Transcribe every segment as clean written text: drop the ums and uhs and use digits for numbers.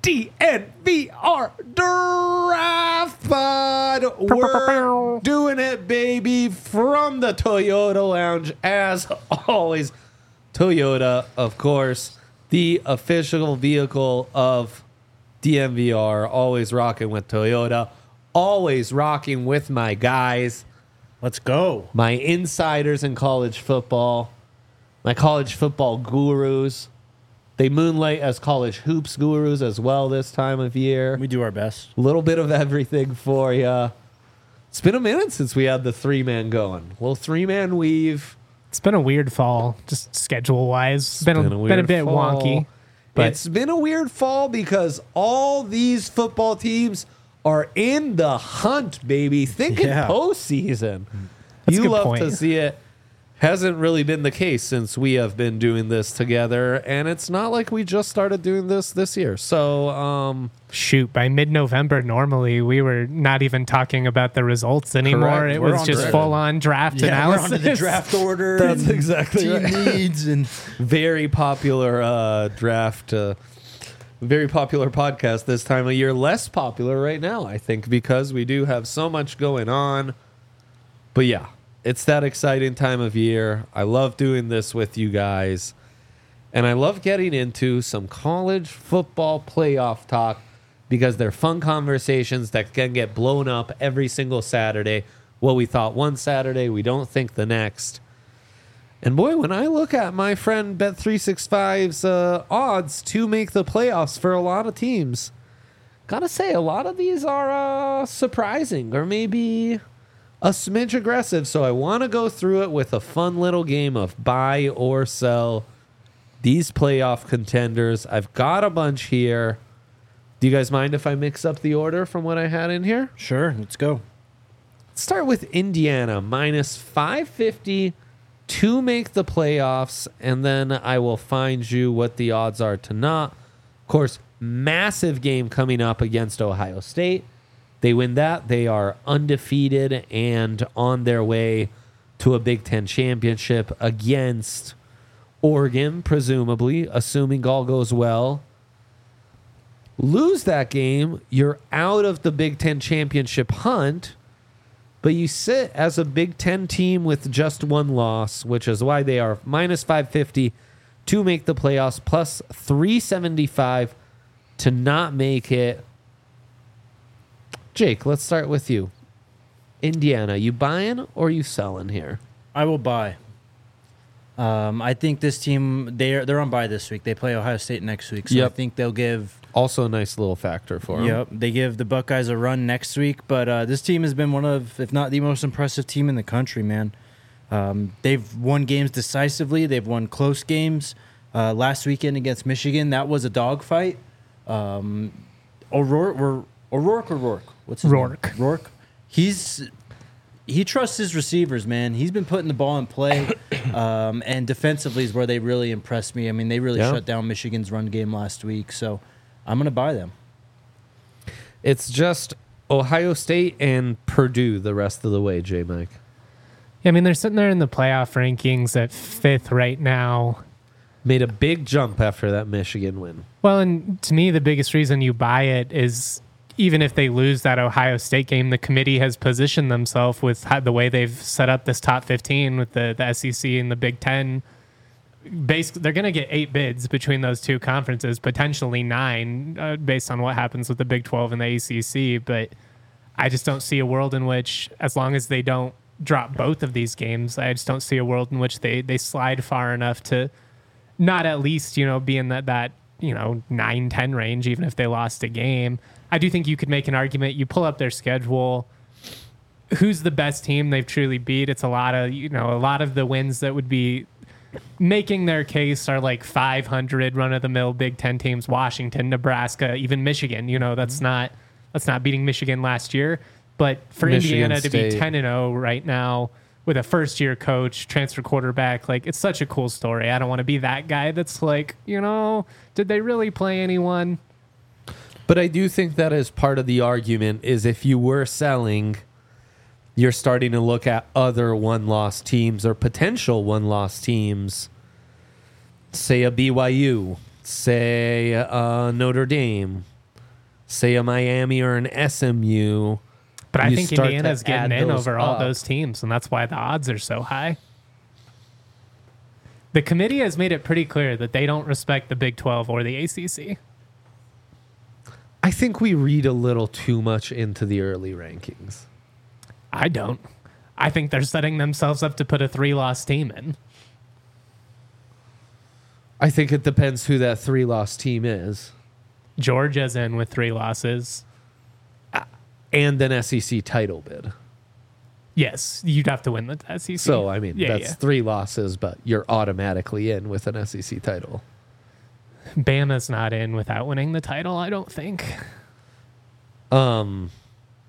DNVR Draft Pod. We're doing it, baby, from the Toyota Lounge. As always, Toyota, of course, the official vehicle of DNVR. Always rocking with Toyota. Always rocking with my guys. Let's go. My insiders in college football. My college football gurus. They moonlight as college hoops gurus as well this time of year. We do our best. A little bit of everything for you. It's been a minute since we had the three-man going. Little three-man weave. It's been a weird fall, just schedule-wise. It's been a bit fall. wonky. But It's been a weird fall because all these football teams are in the hunt, baby. Thinking postseason. That's a You good love point. to see it. Hasn't really been the case since we have been doing this together, and it's not like we just started doing this year. So, shoot, by mid-November, normally we were not even talking about the results anymore. Correct. It We're was on just draft. full-on draft We're analysis. on to the draft order. That's and exactly team right. needs and very popular draft, very popular podcast this time of year. Less popular right now, I think, because we do have so much going on. But yeah, it's that exciting time of year. I love doing this with you guys. And I love getting into some college football playoff talk because they're fun conversations that can get blown up every single Saturday. What we thought one Saturday, we don't think the next. And boy, when I look at my friend Bet365's odds to make the playoffs for a lot of teams, gotta say, a lot of these are surprising or maybe a smidge aggressive. So I want to go through it with a fun little game of buy or sell these playoff contenders. I've got a bunch here. Do you guys mind if I mix up the order from what I had in here? sure, let's go. Let's start with Indiana, minus 550 to make the playoffs, and then I will find you what the odds are to not. Of course, massive game coming up against Ohio State. They win that, they are undefeated and on their way to a Big Ten championship against Oregon, presumably, assuming all goes well. Lose that game, you're out of the Big Ten championship hunt, but you sit as a Big Ten team with just one loss, which is why they are minus 550 to make the playoffs, plus 375 to not make it. Jake, let's start with you. Indiana, you buying or you selling here? I will buy. I think this team they're on bye this week. They play Ohio State next week, so Yep. I think they'll give. Also a nice little factor for them. Yep, they give the Buckeyes a run next week. But this team has been one of, if not the most impressive team in the country, man. They've won games decisively. They've won close games. Last weekend against Michigan, that was a dogfight. O'Rourke. What's his Rourke. name? Rourke. He trusts his receivers, man. He's been putting the ball in play, and defensively is where they really impressed me. I mean, they really shut down Michigan's run game last week, so I'm going to buy them. It's just Ohio State and Purdue the rest of the way, J-Mike. I mean, they're sitting there in the playoff rankings at 5th right now. Made a big jump after that Michigan win. Well, and to me, the biggest reason you buy it is even if they lose that Ohio State game, the committee has positioned themselves with the way they've set up this top 15 with the SEC and the Big Ten. Basically, they're going to get 8 bids between those two conferences, potentially 9, based on what happens with the Big 12 and the ACC. But I just don't see a world in which, as long as they don't drop both of these games, I just don't see a world in which they slide far enough to not at least, be in that 9-10 range, even if they lost a game. I do think you could make an argument. You pull up their schedule. Who's the best team they've truly beat? It's a lot of the wins that would be making their case are like 500 run-of-the-mill Big Ten teams: Washington, Nebraska, even Michigan. That's not beating Michigan last year. But for Michigan Indiana to be State. 10-0 right now with a first-year coach, transfer quarterback, it's such a cool story. I don't want to be that guy that's like, did they really play anyone? But I do think that is part of the argument is if you were selling, you're starting to look at other one-loss teams or potential one-loss teams, say a BYU, say Notre Dame, say a Miami or an SMU. But I you think start to Indiana's getting add in those over all up. those teams, and that's why the odds are so high. The committee has made it pretty clear that they don't respect the Big 12 or the ACC. I think we read a little too much into the early rankings. I don't. I think they're setting themselves up to put a 3-loss team in. I think it depends who that 3-loss team is. Georgia's in with 3 losses. And an SEC title bid. Yes, you'd have to win the SEC. So, I mean, Yeah, that's 3 losses, but you're automatically in with an SEC title. Bama's not in without winning the title, I don't think. I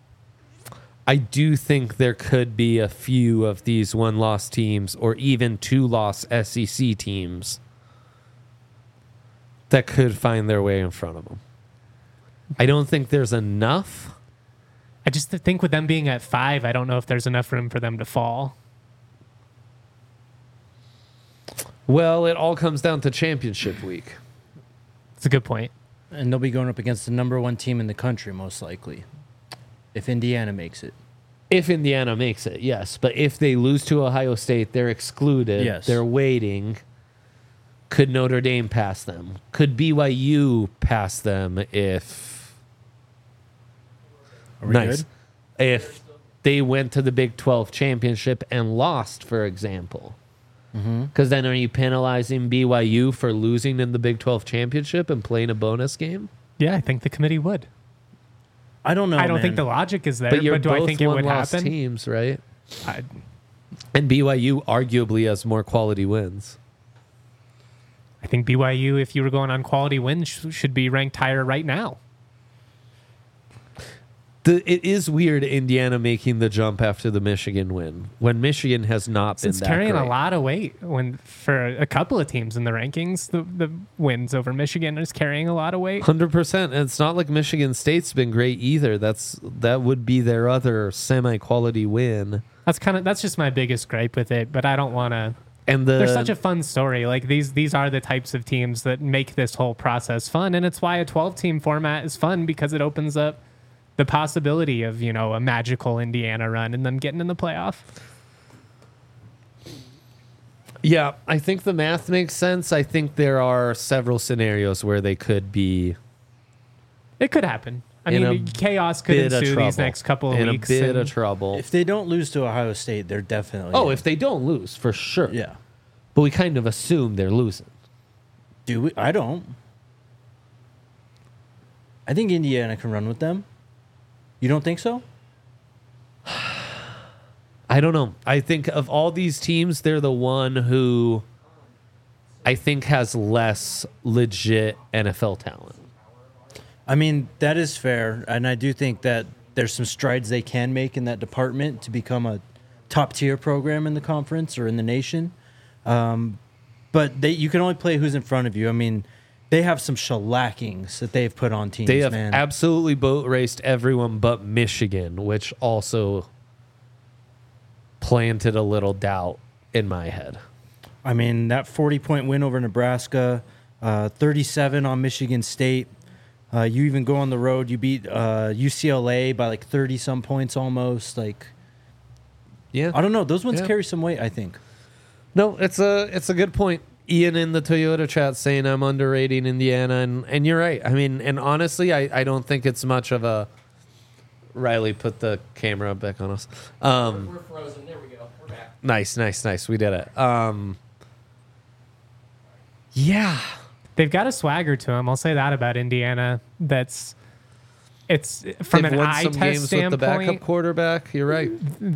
do think there could be a few of these 1-loss teams or even 2-loss SEC teams that could find their way in front of them. I don't think there's enough. I just think with them being at 5, I don't know if there's enough room for them to fall. Well, it all comes down to championship week. It's a good point. And they'll be going up against the number 1 team in the country, most likely, if Indiana makes it. If Indiana makes it, yes. But if they lose to Ohio State, they're excluded. Yes. They're waiting. Could Notre Dame pass them? Could BYU pass them if... Are we Nice. good? If they went to the Big 12 championship and lost, for example. Because then are you penalizing BYU for losing in the Big 12 championship and playing a bonus game? Yeah, I think the committee would. I don't know, I don't man. think the logic is there, But you're but do I both think it would one-loss happen? teams, right? I, And BYU arguably has more quality wins. I think BYU, if you were going on quality wins, should be ranked higher right now. It is weird Indiana making the jump after the Michigan win when Michigan has not been It's that carrying great. a lot of weight when for a couple of teams in the rankings. The wins over Michigan is carrying a lot of weight. 100%. And it's not like Michigan State's been great either. That would be their other semi-quality win. That's just my biggest gripe with it. But I don't want to. And They're such a fun story. Like these are the types of teams that make this whole process fun, and it's why a 12-team format is fun because it opens up the possibility of a magical Indiana run and them getting in the playoff. Yeah, I think the math makes sense. I think there are several scenarios where they could be It could happen. I in mean, a chaos could bit of ensue trouble. these next couple of in weeks. a bit and of trouble. If they don't lose to Ohio State, they're definitely in. If they don't lose, for sure. Yeah. But we kind of assume they're losing. Do we? I don't. I think Indiana can run with them. You don't think so? I don't know. I think of all these teams, they're the one who I think has less legit NFL talent. I mean, that is fair. And I do think that there's some strides they can make in that department to become a top-tier program in the conference or in the nation. But you can only play who's in front of you. I mean, they have some shellackings that they've put on teams, They have man. absolutely boat raced everyone but Michigan, which also planted a little doubt in my head. I mean, that 40-point win over Nebraska, 37 on Michigan State. You even go on the road. You beat UCLA by like 30-some points almost. Like, Yeah. I don't know. Those ones Yeah. carry some weight, I think. No, it's a good point. Ian in the Toyota chat saying I'm underrating Indiana, and you're right. I mean, and honestly, I don't think it's much of a... Riley, put the camera back on us. We're frozen. There we go. We're back. Nice. We did it. Yeah. They've got a swagger to them. I'll say that about Indiana. It's from They've an won eye some test games with the backup standpoint. quarterback. You're right.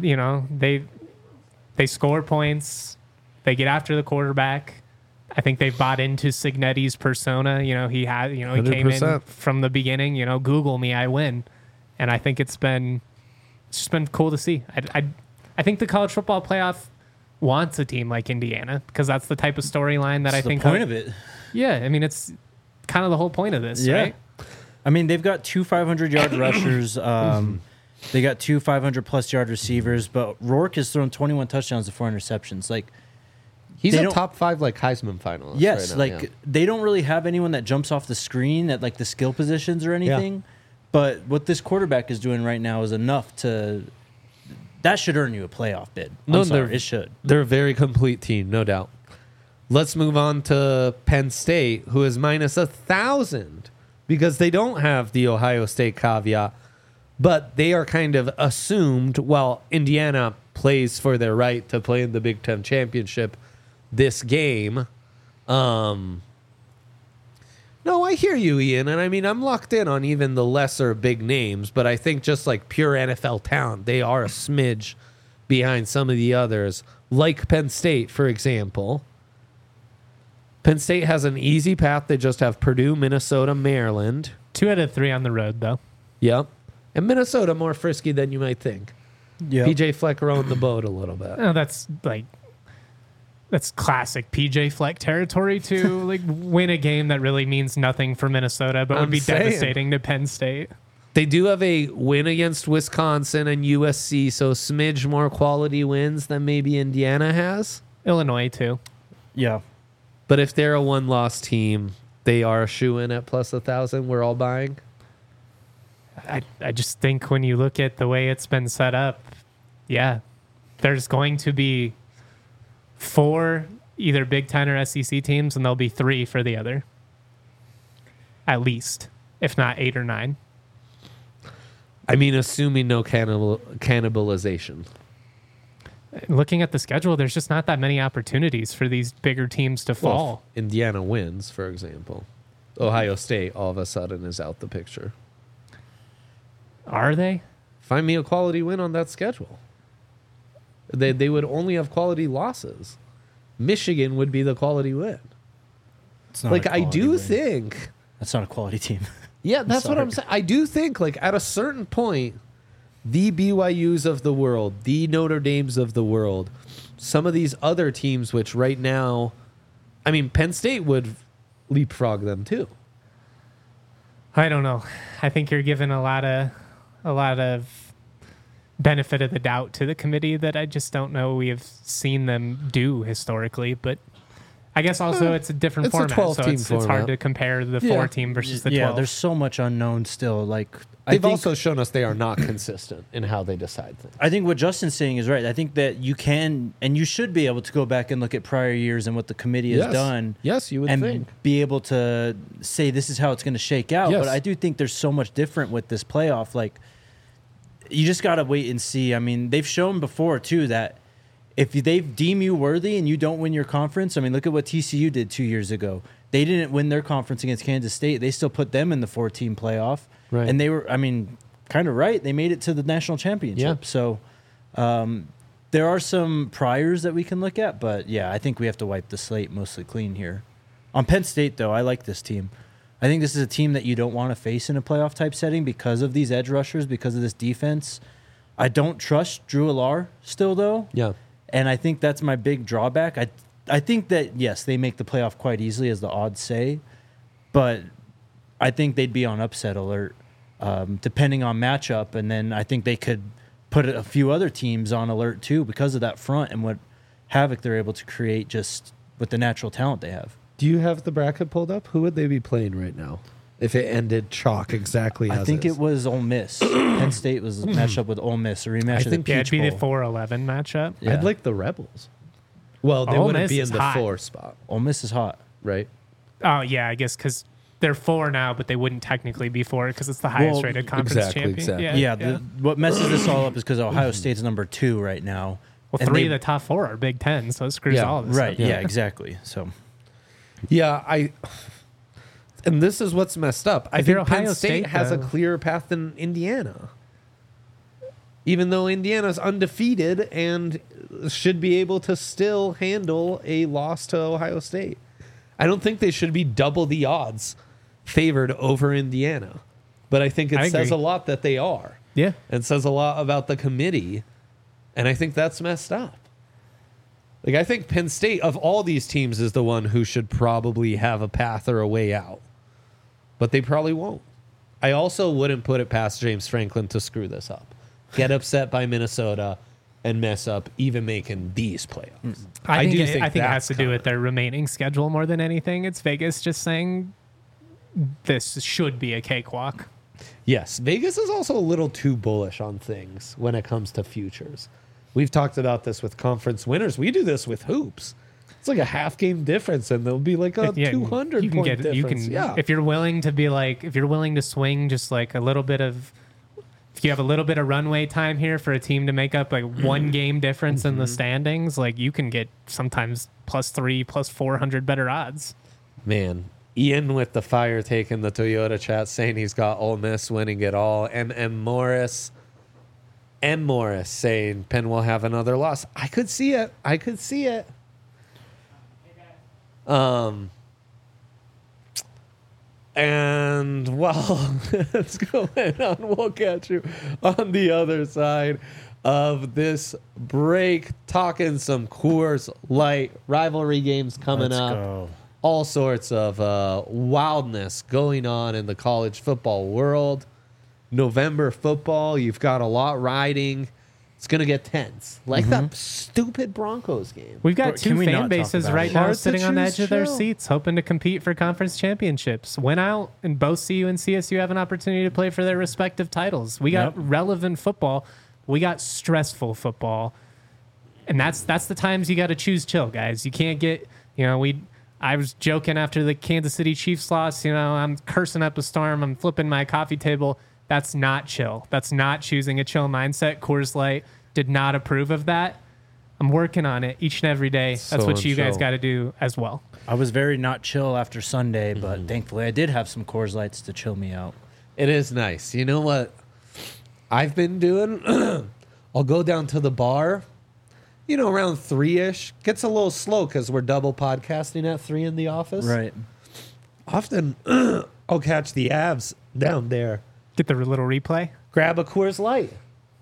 They score points. They get after the quarterback. I think they've bought into Signetti's persona. He came in 100%. from the beginning. Google me, I win. And I think it's just been cool to see. I think the college football playoff wants a team like Indiana because that's the type of storyline that That's I think the point of it. Yeah, I mean it's kind of the whole point of this, Yeah. right? I mean, they've got 2 500-yard rushers. They got 2 500-plus yard receivers. But Rourke has thrown 21 touchdowns to 4 interceptions. Like, He's They a don't- top 5 Heisman finalist. yes, right now, yeah. they don't really have anyone that jumps off the screen at like the skill positions or anything. But what this quarterback is doing right now is enough to that should earn you a playoff bid. I'm sorry, it should. They're a very complete team, no doubt. Let's move on to Penn State, who is minus 1,000 because they don't have the Ohio State caveat, but they are kind of assumed while Indiana plays for their right to play in the Big Ten Championship this game. No, I hear you, Ian. And I mean, I'm locked in on even the lesser big names, but I think just like pure NFL talent, they are a smidge behind some of the others, like Penn State, for example. Penn State has an easy path. They just have Purdue, Minnesota, Maryland. 2 out of 3 on the road, though. Yep. And Minnesota more frisky than you might think. Yeah. PJ Fleck rowing the boat a little bit. Oh, that's classic PJ Fleck territory to like win a game that really means nothing for Minnesota, but would be devastating to Penn State. They do have a win against Wisconsin and USC, so smidge more quality wins than maybe Indiana has. Illinois, too. Yeah. But if they're a one-loss team, they are a shoe-in at plus 1,000. We're all buying. I just think when you look at the way it's been set up, yeah, there's going to be 4 either Big Ten or SEC teams, and there'll be 3 for the other. At least, if not 8 or 9. I mean, assuming no cannibalization. Looking at the schedule, there's just not that many opportunities for these bigger teams to fall. Well, Indiana wins, for example. Ohio State all of a sudden is out the picture. Are they? Find me a quality win on that schedule. They would only have quality losses. Michigan would be the quality win. It's not Like, a I quality do win. think... That's not a quality team. Yeah, that's what sorry. I'm saying. I do think, like, at a certain point, the BYUs of the world, the Notre Dames of the world, some of these other teams, which right now, I mean, Penn State would leapfrog them too. I don't know. I think you're giving a lot of benefit of the doubt to the committee that I just don't know we have seen them do historically. But I guess also it's a different it's a format, 12-team so it's hard format. to compare the Yeah. 4-team versus the 12. Yeah, there's so much unknown still. Like They've also shown us they are not consistent in how they decide things. I think what Justin's saying is right. I think that you can and you should be able to go back and look at prior years and what the committee has done. Yes, you would and think. be able to say this is how it's going to shake out. Yes. But I do think there's so much different with this playoff. Like, you just got to wait and see. I mean, they've shown before, too, that if they deem you worthy and you don't win your conference, I mean, look at what TCU did 2 years ago. They didn't win their conference against Kansas State. They still put them in the 4-team playoff. Right. And they were, I mean, kind of right. They made it to the national championship. Yeah. So there are some priors that we can look at. But, yeah, I think we have to wipe the slate mostly clean here. On Penn State, though, I like this team. I think this is a team that you don't want to face in a playoff type setting because of these edge rushers, because of this defense. I don't trust Drew Allar still, though. Yeah. And I think that's my big drawback. I think that, yes, they make the playoff quite easily, as the odds say. But I think they'd be on upset alert, depending on matchup. And then I think they could put a few other teams on alert, too, because of that front and what havoc they're able to create just with the natural talent they have. Do you have the bracket pulled up? Who would they be playing right now if it ended chalk exactly as I think is? it was Ole Miss. Penn State was matched up with Ole Miss, a rematch of the think Peach it'd be the Bowl. 4-11 matchup. Yeah. I'd like the Rebels. Well, they Ole wouldn't Miss be in is the hot. 4 spot, Ole Miss is hot. right? Oh, yeah, I guess because they're 4 now, but they wouldn't technically be 4 because it's the highest Well, rated conference exactly, champion. exactly. Yeah, what messes this all up is because Ohio State's number 2 right now. Well, And 3 they- of the top 4 are Big Ten, so it screws Yeah, all of this Right, up. yeah, exactly. So Yeah, and this is what's messed up. I If you're think Penn Ohio State State, has a though- clearer path than Indiana. Even though Indiana's undefeated and should be able to still handle a loss to Ohio State. I don't think they should be double the odds favored over Indiana. But I think I it says agree. a lot that they are. Yeah. It says a lot about the committee. And I think that's messed up. Like, I think Penn State, of all these teams, is the one who should probably have a path or a way out. But they probably won't. I also wouldn't put it past James Franklin to screw this up. Get upset by Minnesota and mess up even making these playoffs. I think it that's has to do common. with their remaining schedule more than anything. It's Vegas just saying this should be a cakewalk. Yes, Vegas is also a little too bullish on things when it comes to futures. We've talked about this with conference winners. We do this with hoops. It's like a half game difference, and there'll be like a 200 point difference. If you're willing to be like, if you're willing to swing just like a little bit of, if you have a little bit of runway time here for a team to make up like one game difference in the standings, like you can get sometimes +3, +400 better odds. Man, Ian with the fire taking the Toyota chat saying he's got Ole Miss winning it all. M. Morris saying Penn will have another loss. I could see it. And while it's going on, we'll catch you on the other side of this break, talking some Coors Light rivalry games coming up. Go. All sorts of wildness going on in the college football world. November football, you've got a lot riding. It's going to get tense. Like that stupid Broncos game. We've got Can two we fan not talk bases about right it? now Hard to sitting on the choose edge of their chill. seats, hoping to compete for conference championships. Went out, and both CU and CSU have an opportunity to play for their respective titles. We got relevant football. We got stressful football. And that's the times you got to choose chill, guys. You can't get, I was joking after the Kansas City Chiefs loss, I'm cursing up a storm. I'm flipping my coffee table. That's not chill. That's not choosing a chill mindset. Coors Light did not approve of that. I'm working on it each and every day. That's So what you guys chill. got to do as well. I was very not chill after Sunday, but thankfully I did have some Coors Lights to chill me out. It is nice. You know what I've been doing? I'll go down to the bar, around 3-ish. Gets a little slow because we're double podcasting at 3 in the office. Right. Often I'll catch the Avs down there. Get the little replay. Grab a Coors Light.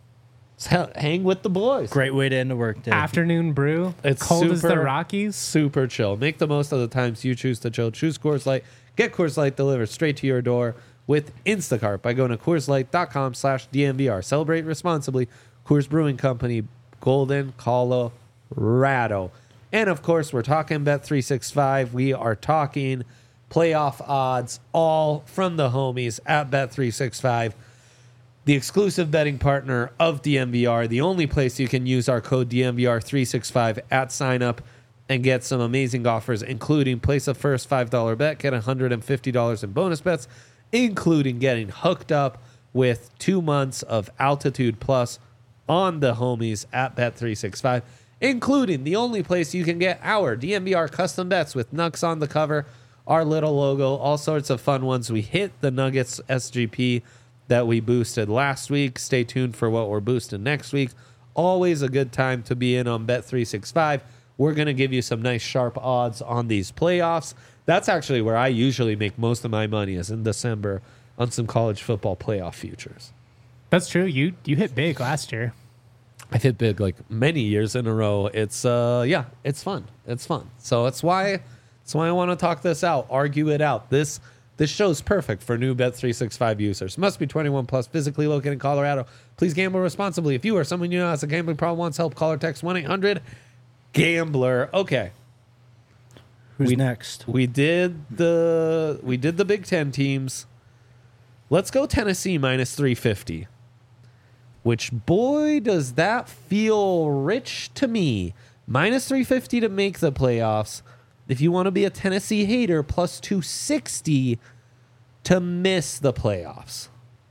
Hang with the boys. Great way to end a work day. Afternoon brew. It's cold as the super- Rockies. Super chill. Make the most of the times you choose to chill. Choose Coors Light. Get Coors Light delivered straight to your door with Instacart by going to CoorsLight.com/DNVR. Celebrate responsibly. Coors Brewing Company, Golden, Colorado. And of course, we're talking Bet365. We are talking playoff odds, all from the homies at Bet365. The exclusive betting partner of DNVR, the only place you can use our code DNVR365 at sign up and get some amazing offers, including place a first $5 bet, get $150 in bonus bets, including getting hooked up with 2 months of Altitude Plus on the homies at Bet365, including the only place you can get our DNVR custom bets with Nux on the cover, our little logo, all sorts of fun ones. We hit the Nuggets SGP that we boosted last week. Stay tuned for what we're boosting next week. Always a good time to be in on Bet365. We're going to give you some nice sharp odds on these playoffs. That's actually where I usually make most of my money, is in December on some college football playoff futures. That's true. You hit big last year. I've hit big like many years in a row. It's it's fun. It's fun. So that's why I want to talk this out, argue it out. This show's perfect for new Bet365 users. Must be 21 plus, physically located in Colorado. Please gamble responsibly. If you or someone you know has a gambling problem, wants help, call or text 1-800-GAMBLER. Okay. Who's next? We did the Big Ten teams. Let's go Tennessee minus 350. Which, boy, does that feel rich to me. Minus 350 to make the playoffs. If you want to be a Tennessee hater, plus 260 to miss the playoffs.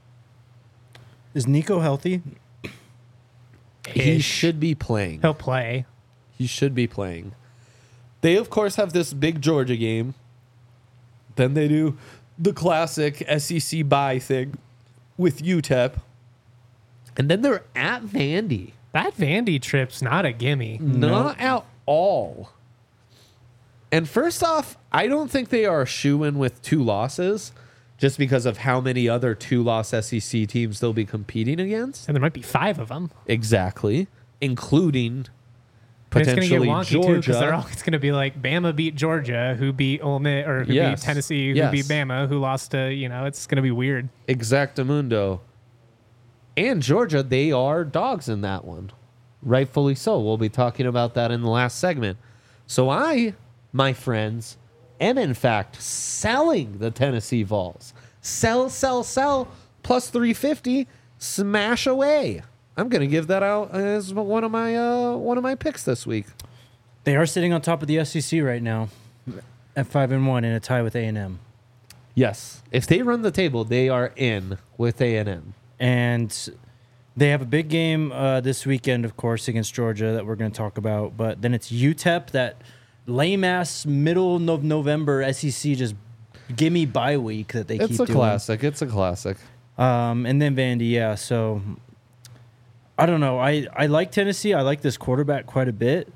Is Nico healthy? He Ish. should be playing. He'll play. He should be playing. They, of course, have this big Georgia game. Then they do the classic SEC bye thing with UTEP. And then they're at Vandy. That Vandy trip's not a gimme. Not at all. And first off, I don't think they are a shoo-in with 2 losses just because of how many other 2-loss SEC teams they'll be competing against. And there might be 5 of them. Exactly. Including And it's going to get potentially wonky too because Georgia. it's going to be like Bama beat Georgia, who beat Ole Miss, or who Yes. beat Tennessee, who Yes. beat Bama, who lost to, it's going to be weird. Exactamundo. And Georgia, they are dogs in that one. Rightfully so. We'll be talking about that in the last segment. So I, my friends, am in fact selling the Tennessee Vols. Sell, plus 350. Smash away. I'm gonna give that out as one of my picks this week. They are sitting on top of the SEC right now at 5-1 in a tie with A&M. Yes, if they run the table, they are in with A&M. And they have a big game this weekend, of course, against Georgia that we're going to talk about. But then it's UTEP, that lame-ass middle of November SEC just gimme bye week that they keep doing. It's a classic. It's a classic. And then Vandy, yeah. So, I don't know. I like Tennessee. I like this quarterback quite a bit.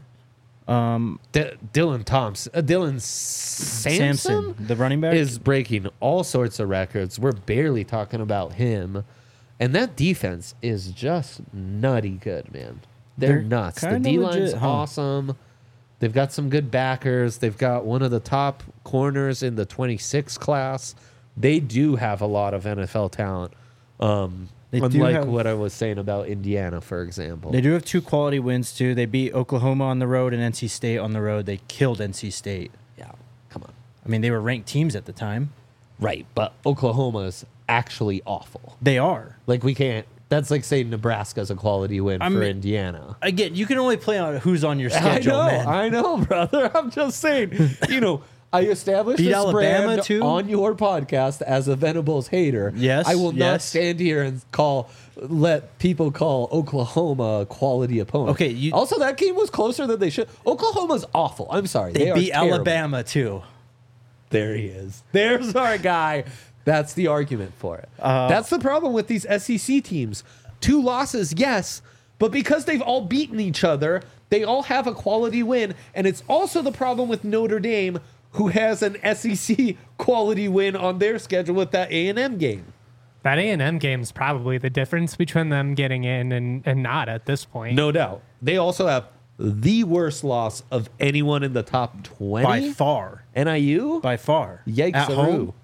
Dylan Sampson, the running back, is breaking all sorts of records. We're barely talking about him. And that defense is just nutty good, man. They're nuts. The D-line's legit, huh? awesome. They've got some good backers. They've got one of the top corners in the 26 class. They do have a lot of NFL talent. Unlike what I was saying about Indiana, for example. They do have 2 quality wins, too. They beat Oklahoma on the road and NC State on the road. They killed NC State. Yeah, come on. I mean, they were ranked teams at the time. Right, but Oklahoma's actually awful. They are. Like, we can't... That's like saying Nebraska's a quality win for Indiana. Again, you can only play on who's on your schedule, I know, brother. I'm just saying. I established Beat this Alabama, brand too? on your podcast as a Venables hater. Yes, I will not yes. stand here and let people call Oklahoma a quality opponent. Okay, also, that game was closer than they should. Oklahoma's awful. I'm sorry. They are beat terrible. Alabama, too. There he is. There's our guy. That's the argument for it. That's the problem with these SEC teams. 2 losses, yes, but because they've all beaten each other, they all have a quality win. And it's also the problem with Notre Dame, who has an SEC quality win on their schedule with that A&M game. That A&M game is probably the difference between them getting in and not at this point. No doubt. They also have the worst loss of anyone in the top 20. By far. NIU? By far. Yikes. At home.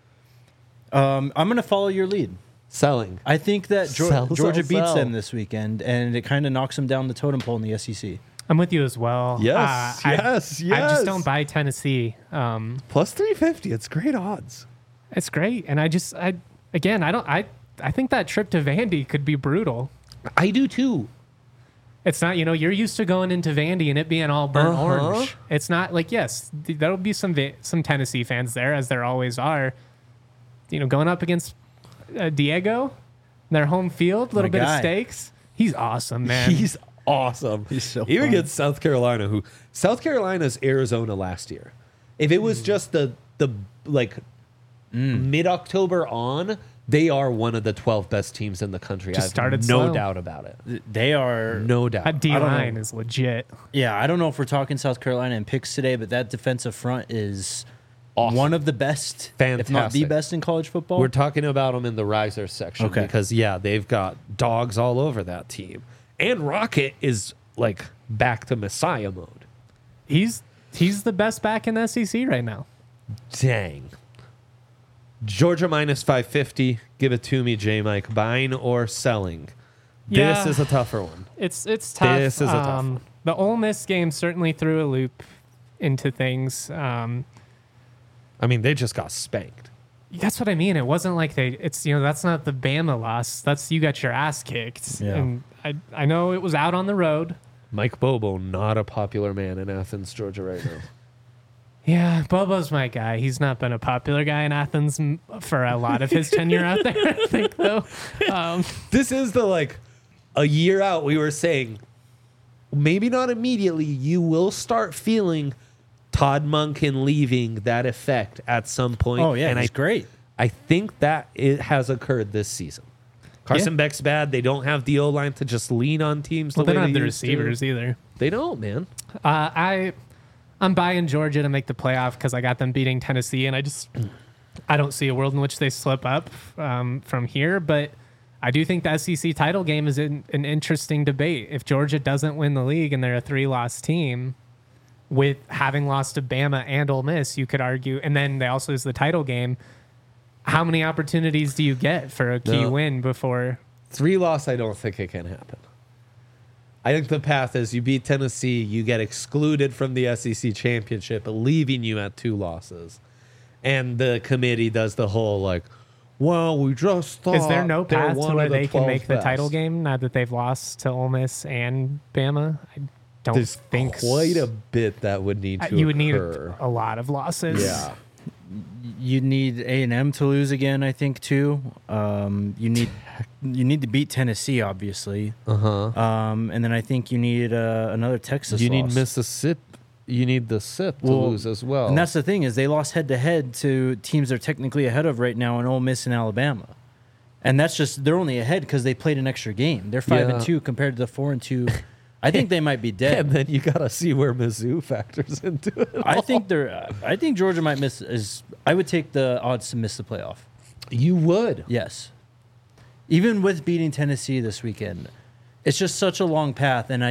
I'm going to follow your lead. Selling. I think that Georgia beats sell. them this weekend, and it kind of knocks them down the totem pole in the SEC. I'm with you as well. Yes, yes. I just don't buy Tennessee. Plus 350. It's great odds. It's great. And I think that trip to Vandy could be brutal. I do too. It's not, you're used to going into Vandy and it being all burnt orange. It's not like, yes, there'll be some Tennessee fans there, as there always are. Going up against Diego, their home field, little bit of stakes. He's awesome, man. He's awesome. He's so even fun. against South Carolina, South Carolina's Arizona last year. If it was just the mid-October on, they are one of the 12 best teams in the country. Just I have started no slow. doubt about it. They are. No doubt. That D-line is legit. Yeah, I don't know if we're talking South Carolina and picks today, but that defensive front is Awesome. one of the best, if not the Fantastic. best in college football. We're talking about them in the riser section because, they've got dogs all over that team. And Rocket is, back to Messiah mode. He's the best back in the SEC right now. Dang. Georgia minus 550. Give it to me, J-Mike. Buying or selling? Yeah. This is a tougher one. It's tough. This is a tough one. The Ole Miss game certainly threw a loop into things. They just got spanked. That's what I mean. It wasn't like that's not the Bama loss. That's you got your ass kicked. Yeah. And I know it was out on the road. Mike Bobo, not a popular man in Athens, Georgia right now. Yeah, Bobo's my guy. He's not been a popular guy in Athens for a lot of his tenure out there, I think, though. This is a year out, we were saying, maybe not immediately, you will start feeling Todd Monken leaving that effect at some point. Oh, yeah, and he's great. I think that it has occurred this season. Carson Beck's bad. They don't have the O-line to just lean on teams. Well, they don't have the used to. receivers either. They don't, man. I'm buying Georgia to make the playoff because I got them beating Tennessee, and I don't see a world in which they slip up from here. But I do think the SEC title game is an interesting debate. If Georgia doesn't win the league and they're a 3-loss team, with having lost to Bama and Ole Miss, you could argue, and then they also lose the title game. How many opportunities do you get for a key win before? 3-loss, I don't think it can happen. I think the path is you beat Tennessee, you get excluded from the SEC championship, leaving you at 2 losses. And the committee does the whole well, we just thought Is there no they're path to one where of the they can 12 make the title best. game now that they've lost to Ole Miss and Bama? I don't There's think quite a bit that would need to you would need occur. a lot of losses. Yeah. You need A&M to lose again, I think, too. You need to beat Tennessee, obviously. Uh-huh. And then I think you need another Texas You need loss. Mississippi. You need the SIP to Well, lose as well. And that's the thing is they lost head-to-head to teams they're technically ahead of right now in Ole Miss and Alabama. And that's just they're only ahead because they played an extra game. They're 5-2 compared to the 4-2. I think they might be and dead. then you got to see where Mizzou factors into it. I think Georgia might miss. I would take the odds to miss the playoff. You would. Yes, even with beating Tennessee this weekend, it's just such a long path, and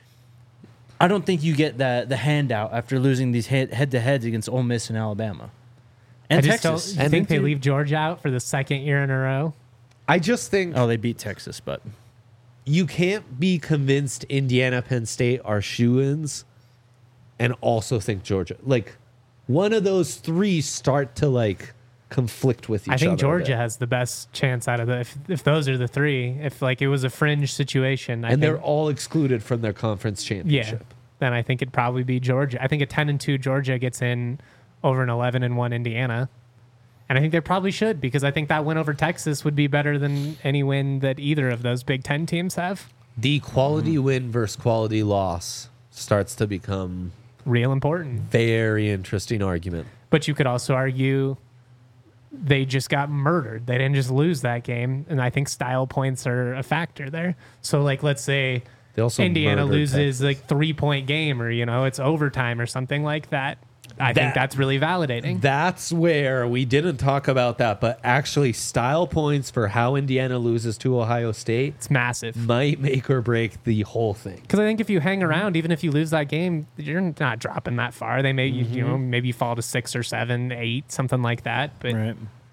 I don't think you get the handout after losing these head-to-heads against Ole Miss and Alabama and I just Texas. don't. You think they leave Georgia out for the second year in a row? I just think Oh, they beat Texas, but you can't be convinced Indiana, Penn State are shoo-ins and also think Georgia. Like, one of those three start to, like, conflict with each other. I think a Georgia bit. has the best chance out of the if those are the three. If like it was a fringe situation, And they're all excluded from their conference championship. then I think it'd probably be Georgia. I think a 10-2 Georgia gets in over an 11-1 Indiana. And I think they probably should because I think that win over Texas would be better than any win that either of those Big Ten teams have. The quality win versus quality loss starts to become Real important. very interesting argument. But you could also argue they just got murdered. They didn't just lose that game. And I think style points are a factor there. So, like, let's say They also Indiana murdered loses Texas. like 3-point game or, it's overtime or something like that. I think that's really validating. That's where we didn't talk about that, but actually style points for how Indiana loses to Ohio State It's massive. might make or break the whole thing. Because I think if you hang around, even if you lose that game, you're not dropping that far. They may, maybe fall to 6 or 7, 8, something like that. But right.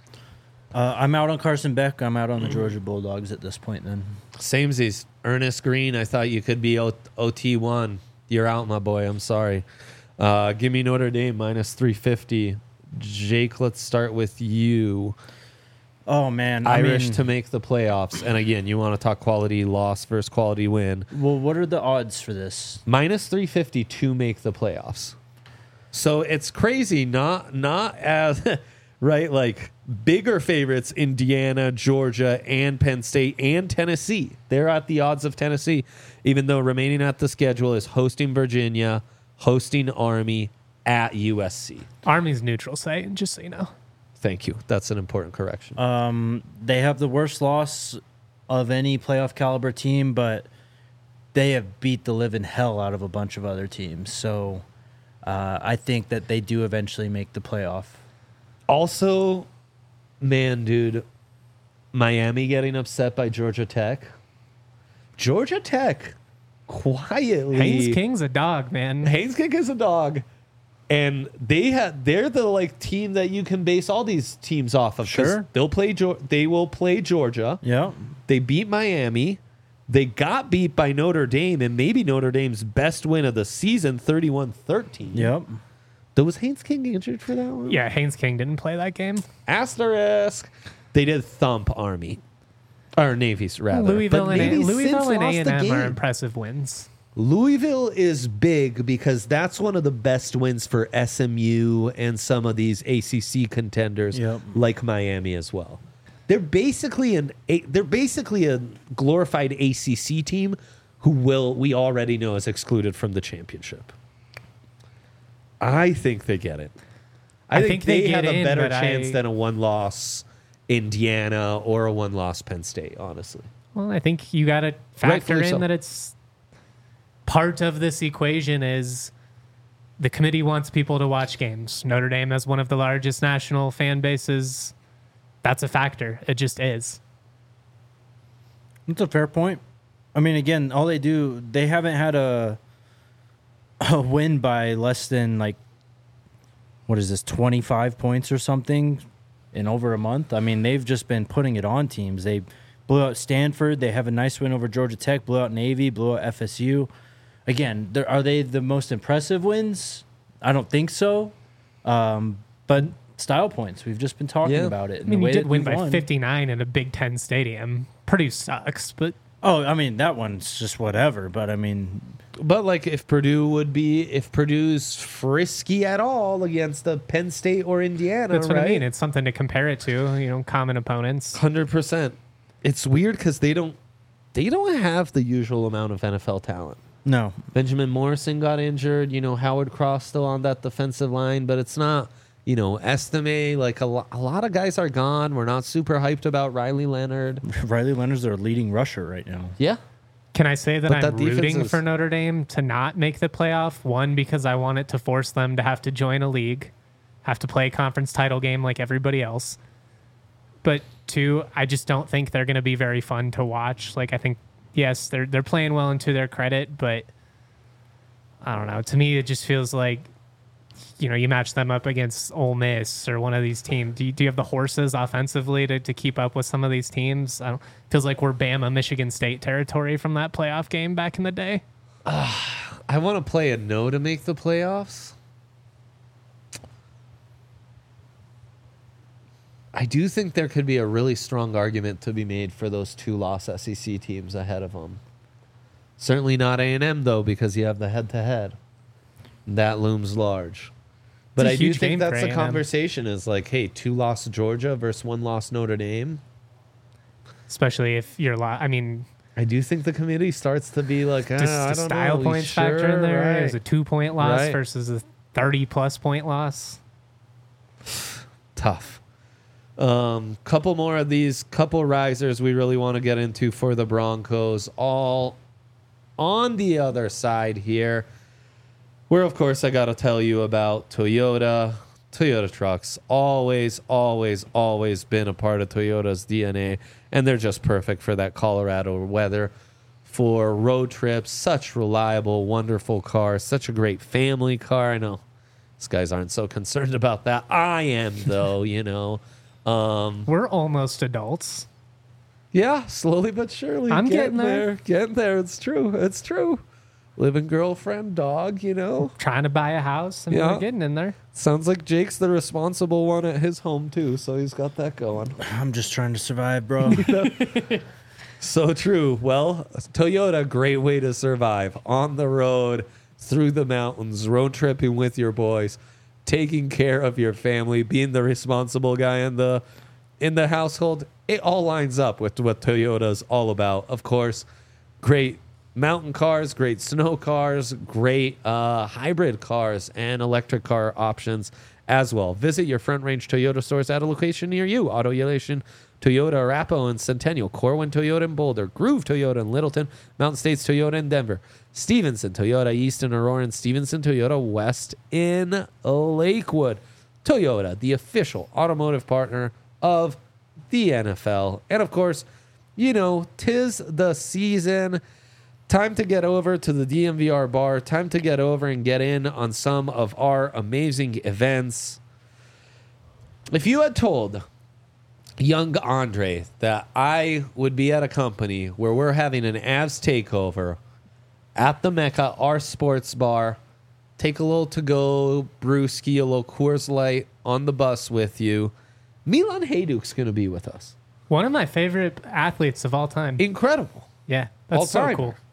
I'm out on Carson Beck. I'm out on the Georgia Bulldogs at this point. Then Samesies. Ernest Green, I thought you could be OT1. You're out, my boy. I'm sorry. Give me Notre Dame minus 350. Jake, let's start with you. oh man, Irish to make the playoffs. And again, you want to talk quality loss versus quality win. Well, what are the odds for this? Minus 350 to make the playoffs. So it's crazy, not as right, like bigger favorites, Indiana, Georgia, and Penn State and Tennessee. They're at the odds of Tennessee, even though remaining at the schedule is hosting Virginia, hosting Army, at USC. Army's neutral site, just so you know. Thank you. That's an important correction. They have the worst loss of any playoff caliber team, but they have beat the living hell out of a bunch of other teams. So I think that they do eventually make the playoff. Also, man, dude, Miami getting upset by Georgia Tech. Georgia Tech quietly. Haynes King's a dog, man. Haynes King is a dog. And they're the like team that you can base all these teams off of. 'Cause Sure. They will play Georgia. Yeah. They beat Miami. They got beat by Notre Dame, and maybe Notre Dame's best win of the season, 31-13. Yep. Was Haynes King injured for that one? Yeah, Haynes King didn't play that game. Asterisk. They did thump Army. Or Navy's, rather. Louisville But Navy and since lost the A&M game. are impressive wins. Louisville is big because that's one of the best wins for SMU and some of these ACC contenders, Yep. like Miami as well. They're basically a glorified ACC team who we already know is excluded from the championship. I think they get it. I think they get have a in, better but chance than a one-loss Indiana or a one-loss Penn State, honestly. Well, I think you got to factor Rightfully in so. that it's part of this equation is the committee wants people to watch games. Notre Dame has one of the largest national fan bases. That's a factor. It just is. That's a fair point. I mean, again, they haven't had a win by less than like, what is this, 25 points or something in over a month. I mean, they've just been putting it on teams. They blew out Stanford. They have a nice win over Georgia Tech, blew out Navy, blew out FSU. Again, are they the most impressive wins? I don't think so. But style points. We've just been talking Yeah. about it. I and mean, the you way did that win we've by won. 59 in a Big Ten stadium. Purdue sucks, but Oh, I mean, that one's just whatever. But I mean, But like if Purdue's frisky at all against the Penn State or Indiana, that's what right? I mean. It's something to compare it to, common opponents. 100%. It's weird because they don't have the usual amount of NFL talent. no. Benjamin Morrison got injured. Howard Cross still on that defensive line, but it's not. Estime, like a lot of guys are gone. We're not super hyped about Riley Leonard. Riley Leonard's their leading rusher right now. Yeah. Can I say that But I'm that defense rooting is- for Notre Dame to not make the playoff? One, because I want it to force them to have to join a league, have to play a conference title game like everybody else. But two, I just don't think they're going to be very fun to watch. Like, I think, yes, they're playing well and to their credit, but I don't know. To me, it just feels like, you match them up against Ole Miss or one of these teams. Do you have the horses offensively to keep up with some of these teams? Feels like we're Bama, Michigan State territory from that playoff game back in the day. I want to play a no to make the playoffs. I do think there could be a really strong argument to be made for those 2-loss SEC teams ahead of them. Certainly not A&M, though, because you have the head-to-head. That looms large. But a I do huge think game that's for the A&M. conversation is like, hey, 2-loss Georgia versus 1-loss Notre Dame. Especially if you're, I do think the committee starts to be like, does I the don't style know. points factor in there? Right. Is a 2-point loss Right. versus a 30-plus point loss? Tough. Couple more of these, couple risers we really want to get into for the Broncos. All on the other side here, where of course I got to tell you about Toyota. Toyota trucks always been a part of Toyota's DNA, and they're just perfect for that Colorado weather, for road trips. Such reliable, wonderful cars, such a great family car. I know these guys aren't so concerned about that. I am though, We're almost adults. Yeah, slowly but surely. I'm getting there. Getting there. It's true. Living girlfriend, dog, Trying to buy a house, and Yeah. we're getting in there. Sounds like Jake's the responsible one at his home, too, so he's got that going. I'm just trying to survive, bro. So true. Well, Toyota, great way to survive. On the road, through the mountains, road tripping with your boys, taking care of your family, being the responsible guy in the household. It all lines up with what Toyota's all about. Of course, great mountain cars, great snow cars, great hybrid cars, and electric car options as well. Visit your Front Range Toyota stores at a location near you. Auto Elation Toyota, Arapahoe and Centennial, Corwin Toyota in Boulder, Groove Toyota in Littleton, Mountain States Toyota in Denver, Stevenson Toyota East in Aurora, and Stevenson Toyota West in Lakewood. Toyota, the official automotive partner of the NFL. And of course, 'tis the season. Time to get over to the DMVR bar. Time to get over and get in on some of our amazing events. If you had told young Andre that I would be at a company where we're having an Avs takeover at the Mecca, our sports bar, take a little to-go brewski, a little Coors Light on the bus with you, Milan Hajduk's going to be with us. One of my favorite athletes of all time. Incredible. Yeah, that's so All-timer. cool.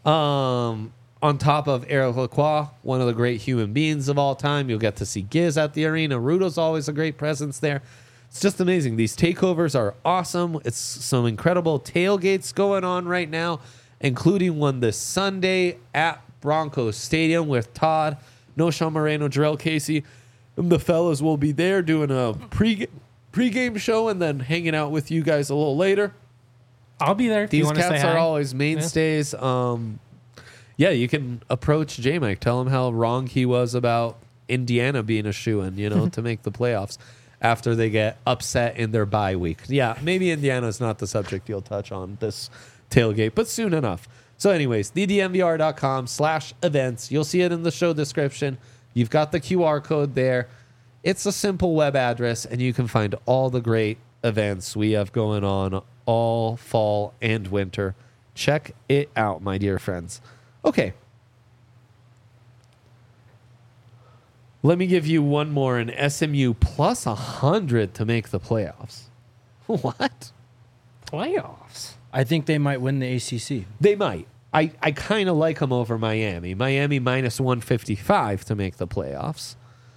On top of Eric Lacroix, one of the great human beings of all time. You'll get to see Giz at the arena. Rudo's always a great presence there. It's just amazing. These takeovers are awesome. It's some incredible tailgates going on right now, including one this Sunday at Broncos Stadium with Todd, Noshawn Moreno, Jarrell Casey. And the fellas will be there doing a pregame show and then hanging out with you guys a little later. I'll be there. Do you These want to say cats hi? are always mainstays. Yeah, you can approach J-Mike. Tell him how wrong he was about Indiana being a shoo-in, to make the playoffs after they get upset in their bye week. Yeah, maybe Indiana's not the subject you'll touch on this tailgate, but soon enough. So anyways, thedmvr.com/events. You'll see it in the show description. You've got the QR code there. It's a simple web address, and you can find all the great events we have going on all fall and winter. Check it out, my dear friends. Okay. Let me give you one more. An SMU plus 100 to make the playoffs. What? Playoffs. I think they might win the ACC. They might. I kind of like them over Miami. Miami minus 155 to make the playoffs.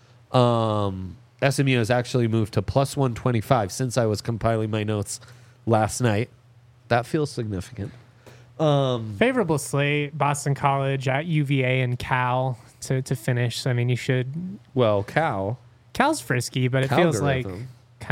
SMU has actually moved to plus 125 since I was compiling my notes last night. That feels significant. Favorable slate: Boston College at UVA and Cal to finish. So, I mean, you should. Well, Cal's frisky, but it feels like Calgorithm.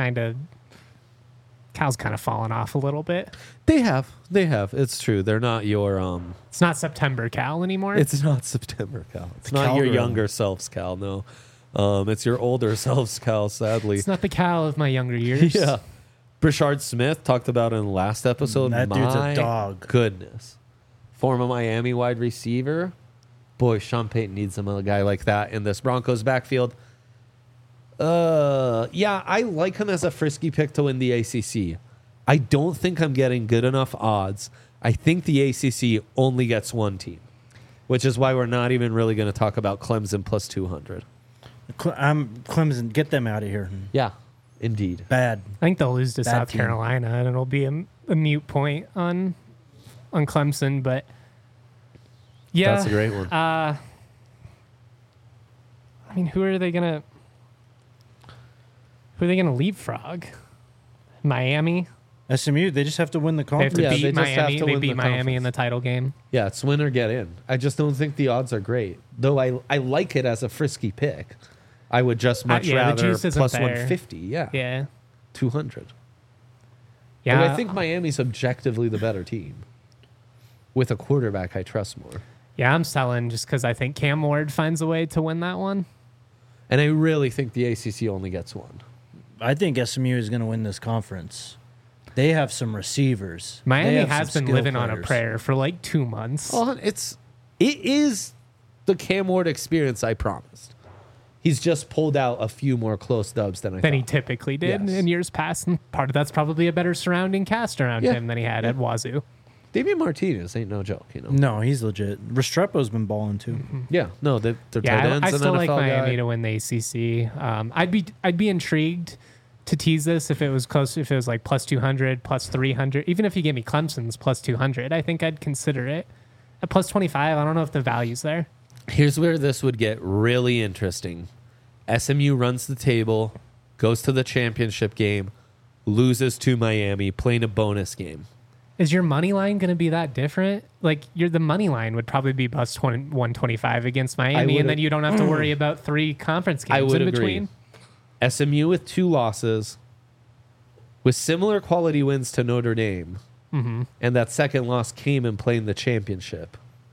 Cal's kind of fallen off a little bit. They have. It's true. They're not your It's not September Cal anymore. It's not September Cal. It's not your Calgary. younger selves Cal. No, it's your older selves Cal. Sadly, It's not the Cal of my younger years. yeah. Brashard Smith talked about in the last episode. That dude's a My dog. Goodness, former Miami wide receiver. Boy, Sean Payton needs a guy like that in this Broncos backfield. Yeah, I like him as a frisky pick to win the ACC. I don't think I'm getting good enough odds. I think the ACC only gets one team, which is why we're not even really going to talk about Clemson plus 200. Clemson, get them out of here. Yeah, indeed. Bad. I think they'll lose to Bad South team. Carolina, and it'll be a mute point on Clemson. But yeah, That's a great one. I mean, who are they gonna leapfrog? Miami. SMU, they just have to win the They have conference. to Yeah, they beat just have Miami. to They win beat the Miami in conference. the title game. Yeah, it's win or get in. I just don't think the odds are great. Though I like it as a frisky pick. I would just much yeah, the rather juice isn't plus there. 150. Yeah. Yeah, 200. yeah. But I think Miami's objectively the better team. With a quarterback I trust more. Yeah, I'm selling just because I think Cam Ward finds a way to win that one. And I really think the ACC only gets one. I think SMU is going to win this conference. They have some receivers. They Miami have has some been skill living on a players. prayer for like 2 months. Oh, it is the Cam Ward experience I promised. He's just pulled out a few more close dubs than I Than he thought. typically did Yes. in years past. And part of that's probably a better surrounding cast around Yeah. him than he had at Wazoo. Damian Martinez ain't no joke, you know. No, he's legit. Restrepo's been balling too. Yeah, no, they're tight Yeah, ends. I an still like NFL Miami guy. to win the ACC. I'd be intrigued to tease this if it was close. If it was like plus 200, plus 300, even if you gave me Clemson's plus 200, I think I'd consider it. At plus 25, I don't know if the value's there. Here's where this would get really interesting. SMU runs the table, goes to the championship game, loses to Miami, playing a bonus game. Is your money line going to be that different? Like the money line would probably be plus 125 against Miami, would and then you don't have to worry about 3 conference games I would in agree. between. SMU with 2 losses, with similar quality wins to Notre Dame, and that second loss came in playing the championship.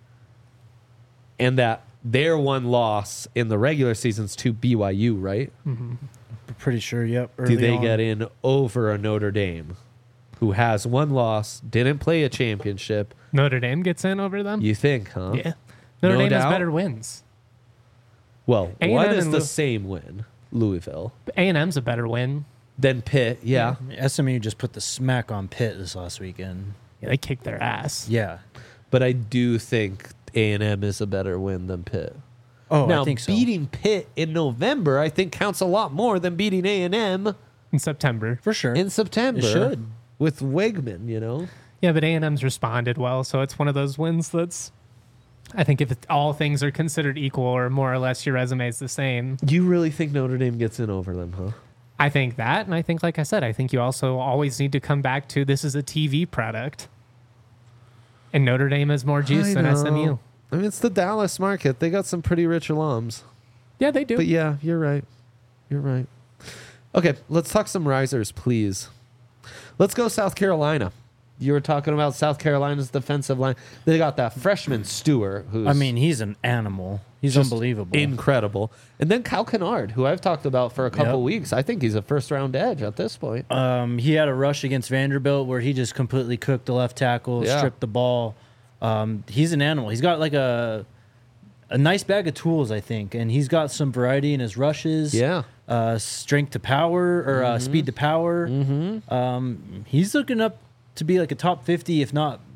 And that their one loss in the regular season's to BYU, right? Pretty sure, yep. Do early they on. get in over a Notre Dame who has 1 loss, didn't play a championship? Notre Dame gets in over them? You think, huh? Yeah. Notre No Dame has doubt. better wins. Well, A&M one is and the Lou- same win, Louisville. A&M's a better win. Then Pitt, yeah. SMU just put the smack on Pitt this last weekend. Yeah, they kicked their ass. Yeah. But I do think A&M is a better win than Pitt. Oh, now, I think so. beating Pitt in November, I think counts a lot more than beating A&M In September. For sure. in September. It should. With Wegman, you know? Yeah, but A&M's responded well, so it's one of those wins that's... I think if all things are considered equal or more or less your resume is the same, You really think Notre Dame gets in over them, huh? I think that, and I think, like I said, I think you also always need to come back to this is a TV product. And Notre Dame has more juice than SMU. I mean, it's the Dallas market. They got some pretty rich alums. Yeah, they do. But yeah, you're right. You're right. Okay, let's talk some risers, please. Let's go South Carolina. You were talking about South Carolina's defensive line. They got that freshman Stewart, who's I mean, he's an animal. He's just unbelievable. incredible. And then Cal Kennard, who I've talked about for a couple Yep. weeks. I think he's a first-round edge at this point. He had a rush against Vanderbilt where he just completely cooked the left tackle, Yeah. stripped the ball. He's an animal. He's got like a nice bag of tools, I think, and he's got some variety in his rushes. Yeah. Strength to power or speed to power. He's looking up to be like a top 50, if not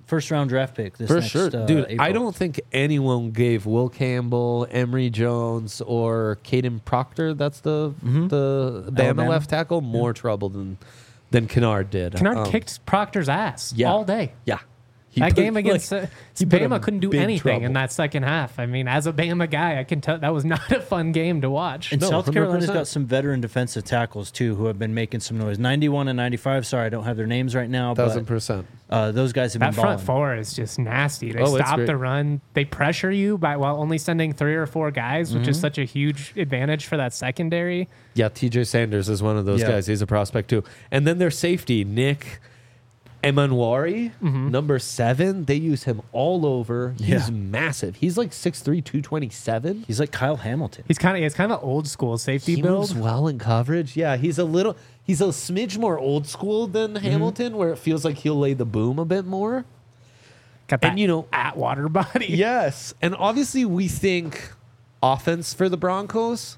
first round draft pick. This For next, sure. Dude, I April. don't think anyone gave Will Campbell, Emory Jones, or Caden Proctor, that's the Bama Alabama. left tackle, more trouble than Kennard did. Kennard kicked Proctor's ass yeah. all day. Yeah. He That put, game against he put him Bama couldn't do big anything in trouble. that second half. I mean, as a Bama guy, I can tell that was not a fun game to watch. And No, South Carolina's 100%. got some veteran defensive tackles too who have been making some noise. 91 and 95. Sorry, I don't have their names right now. 1,000%. But those guys have That been front balling. four is just nasty. They Oh, it's stop great. the run. They pressure you while only sending 3 or 4 guys, which is such a huge advantage for that secondary. Yeah, TJ Sanders is one of those Yeah. guys. He's a prospect too. And then their safety, Nick Emanwari, number 7. They use him all over. He's Yeah. massive. He's like 6'3", 227. He's like Kyle Hamilton. He's kind of an old school safety He build. moves well in coverage. Yeah, he's a smidge more old school than Hamilton, where it feels like he'll lay the boom a bit more. Got that And, you know- Atwater body. Yes, and obviously we think offense for the Broncos.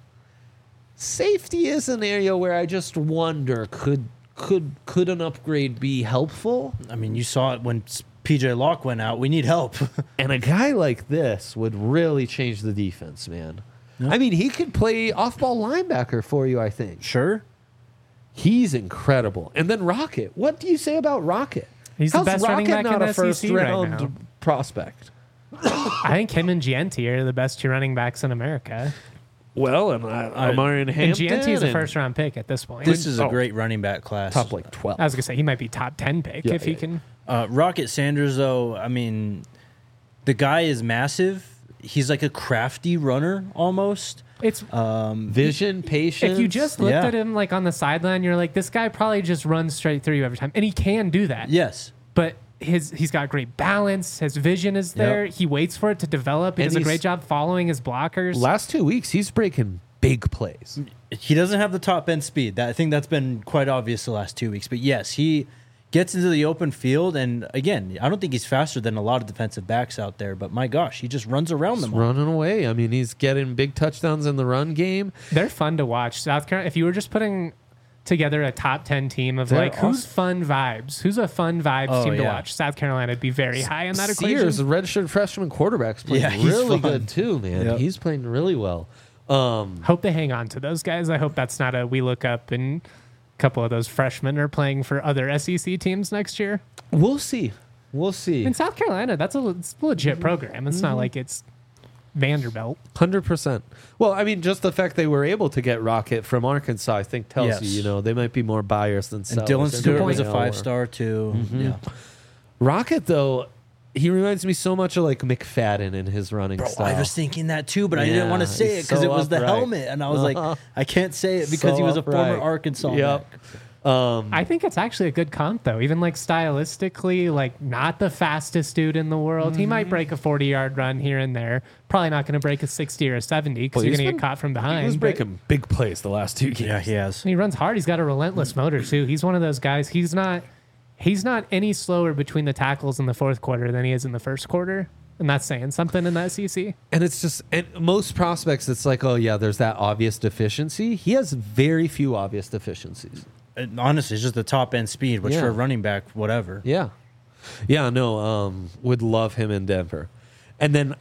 Safety is an area where I just wonder could an upgrade be helpful? I mean, you saw it when PJ Locke went out. We need help. And a guy like this would really change the defense, man. I mean, he could play off-ball linebacker for you, I think. Sure. He's incredible. And then Rocket. What do you say about Rocket? He's the How's best running Rocket back in not a the SEC right first-round now. prospect? I think him and Gianti are the best 2 running backs in America. Well, and Amarian And Hampton. Gianti is a and first round pick at this point. This is a Oh. great running back class. top like 12. I was gonna say he might be top 10 pick Yeah, if he yeah, can. Rocket Sanders, though, I mean, the guy is massive. He's like a crafty runner almost. It's Vision, patience. if you just looked Yeah. at him like on the sideline, you're like, this guy probably just runs straight through you every time, and he can do that. Yes. But he's got great balance. His vision is there. He waits for it to develop. He And does a he's- great job following his blockers. last 2 weeks, he's breaking big plays. He doesn't have the top end speed. I think that's been quite obvious the last 2 weeks. But yes, he gets into the open field. And again, I don't think he's faster than a lot of defensive backs out there. But my gosh, he just runs around them all. Running away. I mean, he's getting big touchdowns in the run game. They're fun to watch. South Carolina. If you were just putting together a top 10 team of They're like who's fun vibes, who's a fun vibes Oh, team to yeah. watch, South Carolina would be very high in that Sears, the equation. redshirt freshman quarterback's playing Yeah, he's really fun. good too, man. Yep. He's playing really well. Hope they hang on to those guys. I hope that's not a we look up and a couple of those freshmen are playing for other SEC teams next year. We'll see. We'll see. In South Carolina, it's a legit program. It's not like it's Vanderbilt. 100%. Well, I mean, just the fact they were able to get Rocket from Arkansas, I think, tells Yes. you, they might be more buyers than And sellers. Dylan They Stewart really was a are. 5-star too. Yeah. Rocket, though, he reminds me so much of like McFadden in his running Bro, style. I was thinking that too, but I didn't Yeah, want to say he's it because so it was the upright. helmet, and I was like, I can't say it because So he was a upright. former Arkansas. Yep. back. I think it's actually a good comp though. Even like stylistically, like not the fastest dude in the world. He might break a 40-yard run here and there. Probably not going to break a 60 or a 70 because Well, you're he's going to been- get caught from behind. He was but breaking big plays the last 2 games. Yeah, he has. he runs hard. He's got a relentless motor too. He's one of those guys. He's not any slower between the tackles in the fourth quarter than he is in the first quarter. And that's saying something in the SEC. And it's just, and most prospects, it's like, oh, yeah, there's that obvious deficiency. He has very few obvious deficiencies. And honestly, it's just the top end speed, which Yeah. for a running back, whatever. Yeah. Yeah, no, would love him in Denver. And then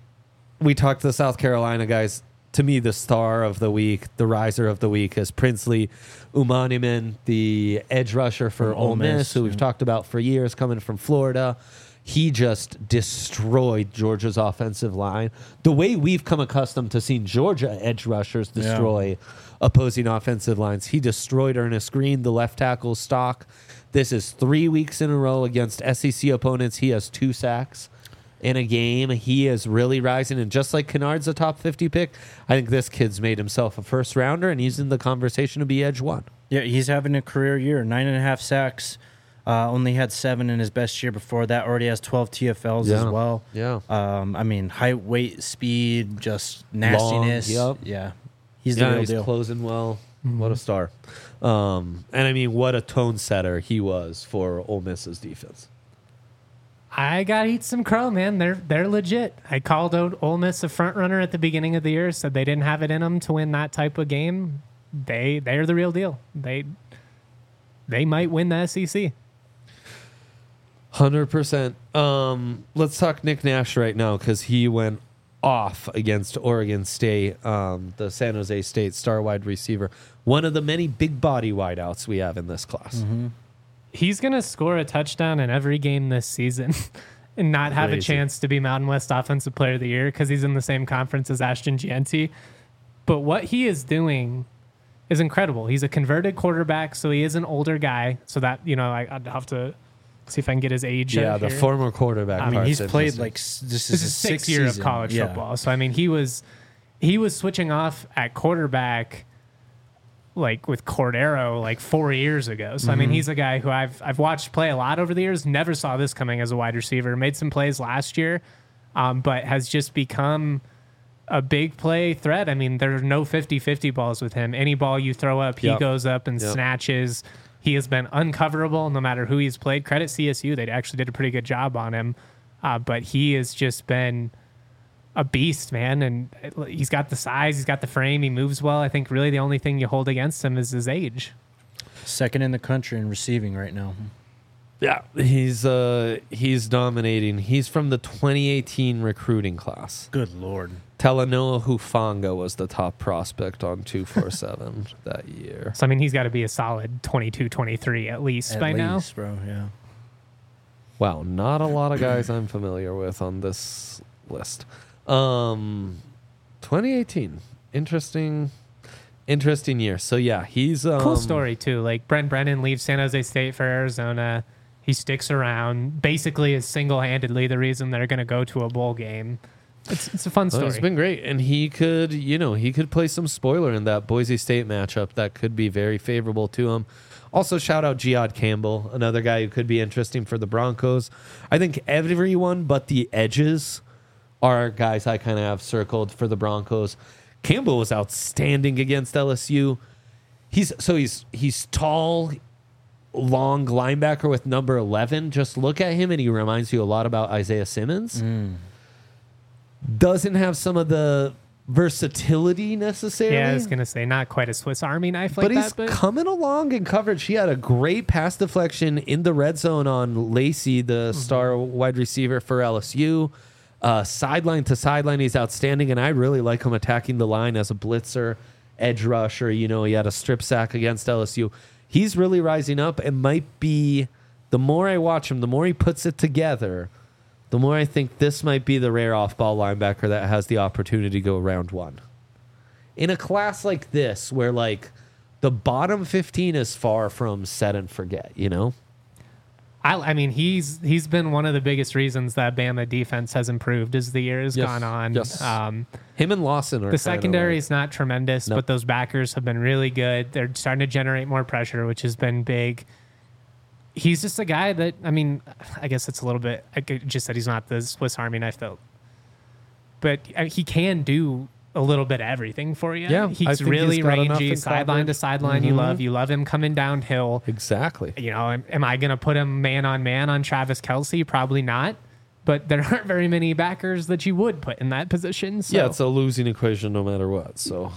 we talked to the South Carolina guys. To me, the star of the week, the riser of the week is Princely Umaniman, the edge rusher for From Ole Ole Miss, Miss, who we've yeah. talked about for years, coming from Florida. He just destroyed Georgia's offensive line. The way we've come accustomed to seeing Georgia edge rushers destroy opposing offensive lines, he destroyed Ernest Green, the left tackle stock. This is 3 weeks in a row against SEC opponents. He has 2 sacks in a game. He is really rising. And just like Kennard's a top 50 pick, I think this kid's made himself a first rounder, and he's in the conversation to be edge 1. Yeah, he's having a career year. 9.5 sacks. Only had 7 in his best year before that. Already has 12 TFLs as well. Yeah. I mean, height, weight, speed, just nastiness. Long, yep. Yeah. He's the Yeah, real he's deal. closing well. What a star. And I mean, what a tone setter he was for Ole Miss's defense. I gotta eat some crow, man. They're legit. I called out Ole Miss a front runner at the beginning of the year. Said they didn't have it in them to win that type of game. They're the real deal. They might win the SEC. 100%. Let's talk Nick Nash right now because he went off against Oregon State, the San Jose State star wide receiver. One of the many big body wideouts we have in this class. He's going to score a touchdown in every game this season and not have a Crazy. chance to be Mountain West Offensive Player of the Year because he's in the same conference as Ashton Gianti. But what he is doing is incredible. He's a converted quarterback, so he is an older guy. So that, I'd have to see if I can get his age. Yeah, out the here. former quarterback. I I mean, part's he's played interesting. this This is is his sixth year of season. college Yeah. football. So I mean, he was switching off at quarterback like with Cordero like 4 years ago. So I mean, he's a guy who I've watched play a lot over the years. Never saw this coming as a wide receiver. Made some plays last year, but has just become a big play threat. I mean, there are no 50-50 balls with him. Any ball you throw up, he Yep. goes up and Yep. snatches. He has been uncoverable no matter who he's played. Credit CSU. They actually did a pretty good job on him. But he has just been a beast, man. And he's got the size. He's got the frame. He moves well. I think really the only thing you hold against him is his age. Second in the country in receiving right now. Yeah, he's dominating. He's from the 2018 recruiting class. Good Lord. Talanoa Hufanga was the top prospect on 247 that year. So, I mean, he's got to be a solid 22, 23 at least by now. Bro, yeah. Wow, not a lot of guys I'm familiar with on this list. 2018, interesting year. So yeah, he's Cool story, too. Like, Brent Brennan leaves San Jose State for Arizona. He sticks around. Basically is single-handedly the reason they're going to go to a bowl game. It's a fun story. It's been great, and he could play some spoiler in that Boise State matchup that could be very favorable to him. Also, shout out Jihad Campbell, another guy who could be interesting for the Broncos. I think everyone but the edges are guys I kind of have circled for the Broncos. Campbell was outstanding against LSU. He's tall, long linebacker with number 11. Just look at him, and he reminds you a lot about Isaiah Simmons. Doesn't have some of the versatility necessarily. Yeah, I was going to say, not quite a Swiss Army knife like but he's that. But coming along in coverage. He had a great pass deflection in the red zone on Lacey, the star wide receiver for LSU. Sideline to sideline, he's outstanding, and I really like him attacking the line as a blitzer, edge rusher. He had a strip sack against LSU. He's really rising up and might be, the more I watch him, the more he puts it together, the more I think this might be the rare off-ball linebacker that has the opportunity to go round one. In a class like this, where like the bottom 15 is far from set and forget, I mean, he's been one of the biggest reasons that Bama defense has improved as the year has Yes, gone on. yes. Him and Lawson are The secondary is not tremendous, Nope. but those backers have been really good. They're starting to generate more pressure, which has been big. He's just a guy that, I mean, I guess it's a little bit, I just said he's not the Swiss Army knife, though. But he can do a little bit of everything for you. Yeah, I He's think really he's got enough rangy, in sideline to coverage. sideline. You love him coming downhill. Exactly. Am I going to put him man on Travis Kelce? Probably not. But there aren't very many backers that you would put in that position. So. Yeah, it's a losing equation no matter what. So,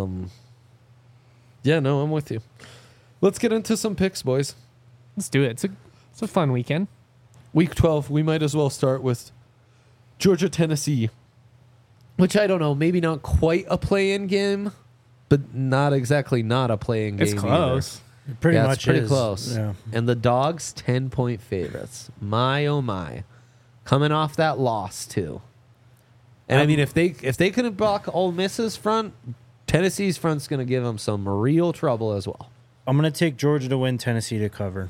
yeah, no, I'm with you. Let's get into some picks, boys. Let's do it. It's a fun weekend. Week 12, we might as well start with Georgia, Tennessee, which I don't know, maybe not quite a play-in game, but not exactly not a play-in game It's close. It pretty much it's pretty is. close. Yeah. And the Dogs, 10-point favorites. My, oh my. Coming off that loss, too. And I mean, if they couldn't block Ole Miss's front, Tennessee's front's going to give them some real trouble as well. I'm going to take Georgia to win, Tennessee to cover.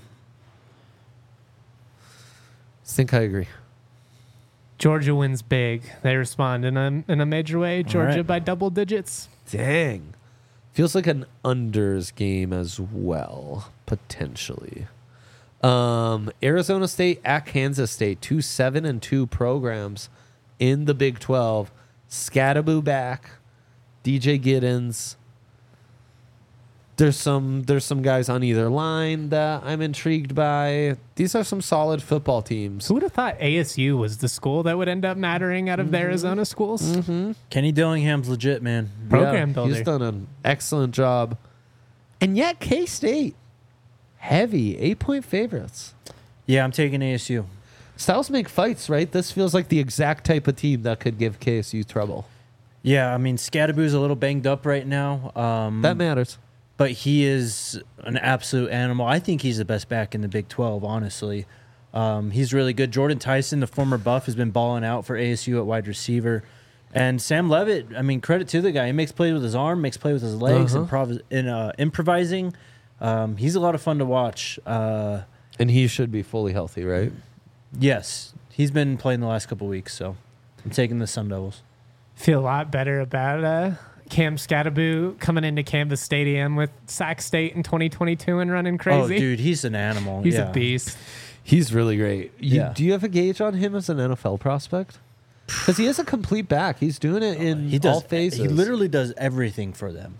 I think I agree. Georgia wins big. They respond in a major way. Georgia right. by double digits. Dang. Feels like an unders game as well, potentially. Arizona State at Kansas State, 2 7-2 programs in the Big 12. Scattaboo back, DJ Giddens. There's some guys on either line that I'm intrigued by. These are some solid football teams. Who would have thought ASU was the school that would end up mattering out of the Arizona schools? Kenny Dillingham's legit, man. Program builder. He's done an excellent job. And yet K-State, heavy, 8-point favorites. Yeah, I'm taking ASU. Styles make fights, right? This feels like the exact type of team that could give KSU trouble. Yeah, I mean, Scadaboo's a little banged up right now. That matters. But he is an absolute animal. I think he's the best back in the Big 12, honestly. He's really good. Jordan Tyson, the former Buff, has been balling out for ASU at wide receiver. And Sam Levitt, I mean, credit to the guy. He makes plays with his arm, makes plays with his legs, improvising. He's a lot of fun to watch. And he should be fully healthy, right? Yes, he's been playing the last couple weeks, so I'm taking the Sun Devils. Feel a lot better about Cam Scadaboo coming into Canvas Stadium with Sac State in 2022 and running crazy. Oh, dude, he's an animal. He's a beast. He's really great. Yeah. Do you have a gauge on him as an NFL prospect? Because he is a complete back. He's doing it in all phases. He literally does everything for them.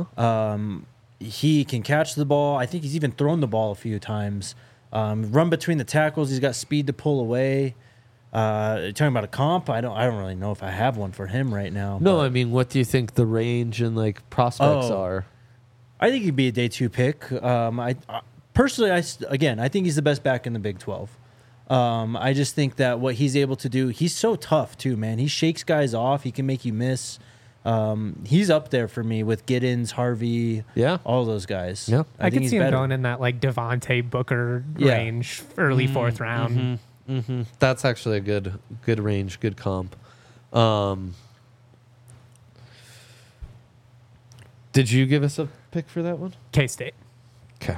He can catch the ball. I think he's even thrown the ball a few times. Run between the tackles. He's got speed to pull away. Talking about a comp, I don't really know if I have one for him right now. No, I mean, what do you think the range and like prospects are? I think he'd be a day 2 pick. I personally, I think he's the best back in the Big 12. I just think that what he's able to do, he's so tough too, man. He shakes guys off. He can make you miss. He's up there for me with Giddens, Harvey, all those guys. Yeah, I could see him going in that like Devontae Booker range, early 4th round. That's actually a good range, good comp. Did you give us a pick for that one? K-State. Okay.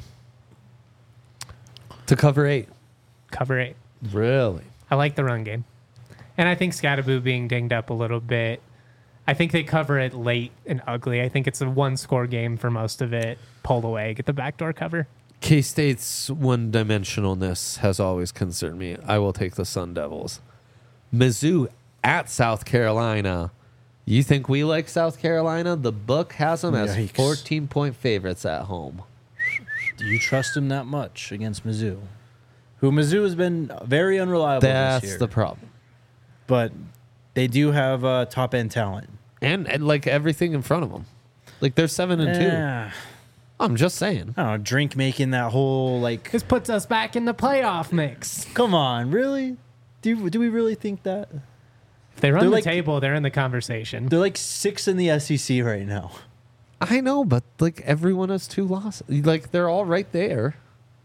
To cover 8. Cover 8. Really? I like the run game. And I think Scadaboo being dinged up a little bit. I think they cover it late and ugly. I think it's a 1-score game for most of it. Pull away, get the backdoor cover. K-State's one-dimensionalness has always concerned me. I will take the Sun Devils. Mizzou at South Carolina. You think we like South Carolina? The book has them as 14-point favorites at home. Do you trust him that much against Mizzou? Who Mizzou has been very unreliable this year. That's the problem. But they do have top-end talent. And like everything in front of them. Like they're 7-2. I'm just saying. I don't know, drink making that whole like. This puts us back in the playoff mix. Come on, really? Do we really think that? If they run the table, they're in the conversation. They're like 6 in the SEC right now. I know, but like everyone has 2 losses. Like they're all right there.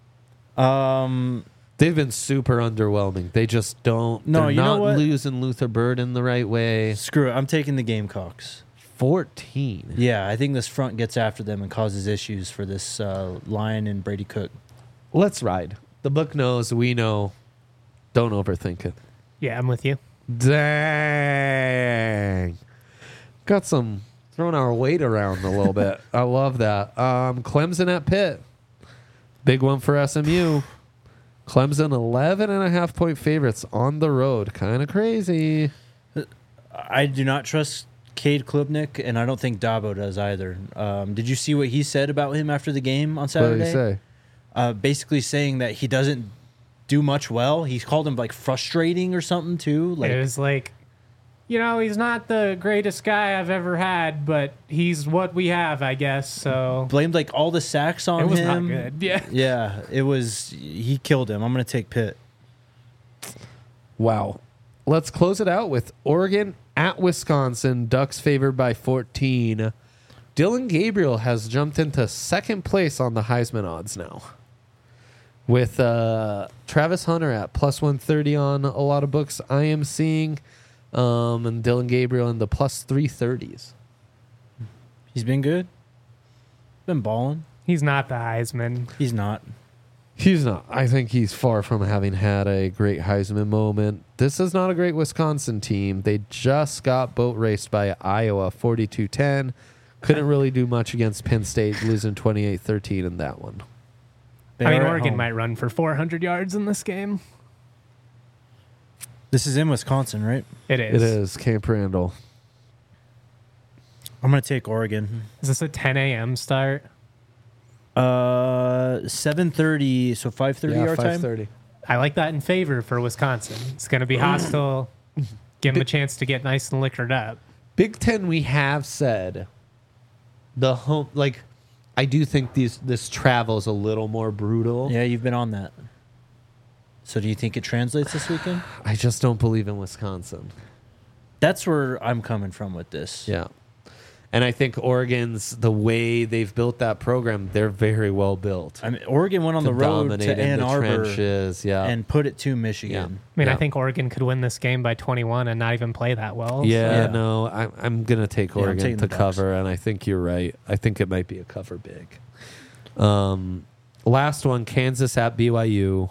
They've been super underwhelming. They just don't. No, they're you know not what? losing Luther Bird in the right way. Screw it. I'm taking the Gamecocks. 14. Yeah, I think this front gets after them and causes issues for this Lion and Brady Cook. Let's ride. The book knows. We know. Don't overthink it. Yeah, I'm with you. Dang. Got some throwing our weight around a little bit. I love that. Clemson at Pitt. Big one for SMU. Clemson 11.5-point favorites on the road. Kind of crazy. I do not trust Cade Klubnik, and I don't think Dabo does either. Did you see what he said about him after the game on Saturday? What did he say? Basically saying that he doesn't do much well. He called him like frustrating or something too. Like it was like, he's not the greatest guy I've ever had, but he's what we have, I guess. So blamed like all the sacks on him. It was not good. Yeah. Yeah, it was. He killed him. I'm going to take Pitt. Wow. Let's close it out with Oregon at Wisconsin. Ducks favored by 14. Dylan Gabriel has jumped into second place on the Heisman odds now, with Travis Hunter at plus 130 on a lot of books I am seeing, and Dylan Gabriel in the plus 330s. He's been good. Been balling. He's not the Heisman. He's not. He's not. I think he's far from having had a great Heisman moment. This is not a great Wisconsin team. They just got boat raced by Iowa 42-10. Couldn't really do much against Penn State, losing 28-13 in that one. Oregon might run for 400 yards in this game. This is in Wisconsin, right? It is. It is. Camp Randall. I'm going to take Oregon. Is this a 10 a.m. start? 7:30, so 5:30 our time? 5:30. I like that in favor for Wisconsin. It's going to be hostile. Give them a chance to get nice and liquored up. Big Ten, we have said the home, like, I do think this travel is a little more brutal. Yeah, you've been on that. So do you think it translates this weekend? I just don't believe in Wisconsin. That's where I'm coming from with this. Yeah. And I think Oregon's, the way they've built that program, they're very well built. I mean, Oregon went on the road to Ann Arbor trenches, and put it to Michigan. I mean, Yeah. I think Oregon could win this game by 21 and not even play that well. Yeah, So- no, I'm going to take Yeah, I'm Oregon taking to the Ducks. cover, and I think you're right. I think it might be a cover big. Last one, Kansas at BYU.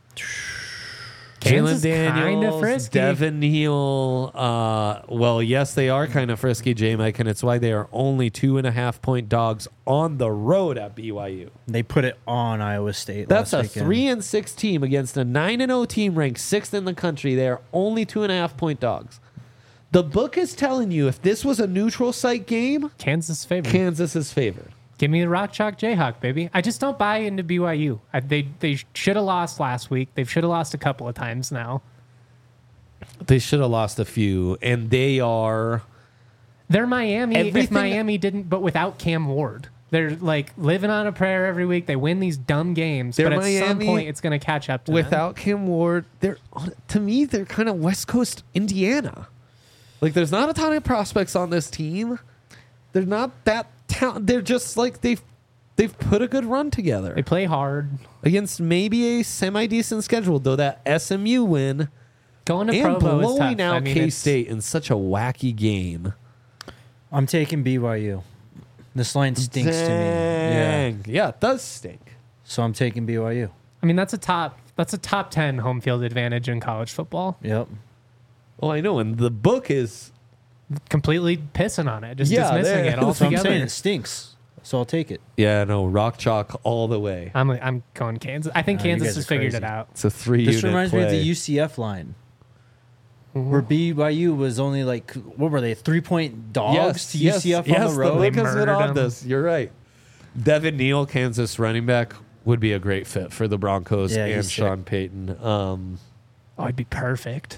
Kansas Jalen Daniels, kinda frisky. Devin Neal. Well, yes, they are kind of frisky, J-Mike, and it's why they are only 2.5-point dogs on the road at BYU. They put it on Iowa State. That's a last weekend. 3-6 team against a 9-0 team ranked 6th in the country. They are only 2.5-point dogs. The book is telling you if this was a neutral site game, Kansas favorite. Kansas is favored. Give me the Rock Chalk Jayhawk, baby. I just don't buy into BYU. They should have lost last week. They should have lost a couple of times now. They should have lost a few, and they are. They're Miami if Everything- Miami didn't, but without Cam Ward. They're like living on a prayer every week. They win these dumb games, They're but at some Miami point it's going to catch up to them. Without Kim Ward, they're, to me, they're kind of West Coast Indiana. Like, there's not a ton of prospects on this team. They're not that talented. They're just like they've put a good run together They play hard. against maybe a semi decent schedule. Though that SMU win Going to and Provo is tough. blowing out I mean, K State in such a wacky game. I'm taking BYU. This line stinks to me. Yeah. Dang. Yeah, it does stink. So I'm taking BYU. I mean, that's a top 10 home field advantage in college football. Yep. Well, I know, and the book is Completely pissing on it, just Yeah, dismissing there- it So I'm saying altogether. it stinks. So I'll take it. no rock chalk all the way. I'm going Kansas. I think Nah, you Kansas guys has are figured crazy. it out. It's a 3 This unit reminds play. me of the UCF line. Where BYU was only like, what were they, 3-point dogs to UCF on the road? The book has it Murdered on them. this. You're right. Devin Neal, Kansas running back, would be a great fit for the Broncos Yeah, he's and sick. Sean Payton. Oh, it'd be perfect.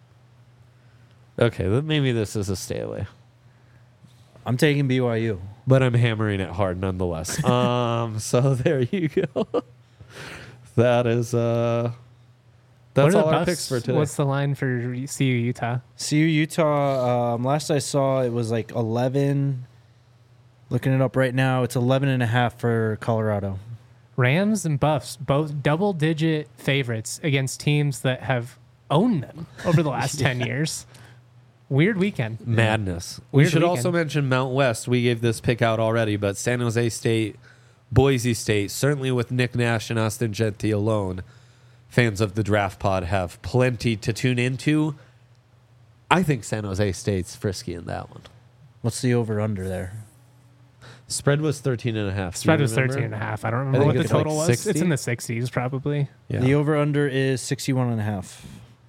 Okay, then maybe this is a stay away, I'm taking BYU. but I'm hammering it hard nonetheless. So there you go. That is that's What are the all our Buffs? picks for today. What's the line for CU Utah? CU Utah, last I saw, it was like 11. Looking it up right now, it's 11.5 for Colorado. Rams and Buffs, both double-digit favorites against teams that have owned them over the last 10 years. Weird weekend. Madness. We Weird should weekend. also mention Mount West. We gave this pick out already, but San Jose State, Boise State, certainly with Nick Nash and Austin Gentry alone, fans of the Draft Pod have plenty to tune into. I think San Jose State's frisky in that one. What's the over-under there? Spread was 13.5. Spread was 13.5. I don't remember think what the it's like total was. 60. It's in the 60s probably. Yeah. The over-under is 61.5.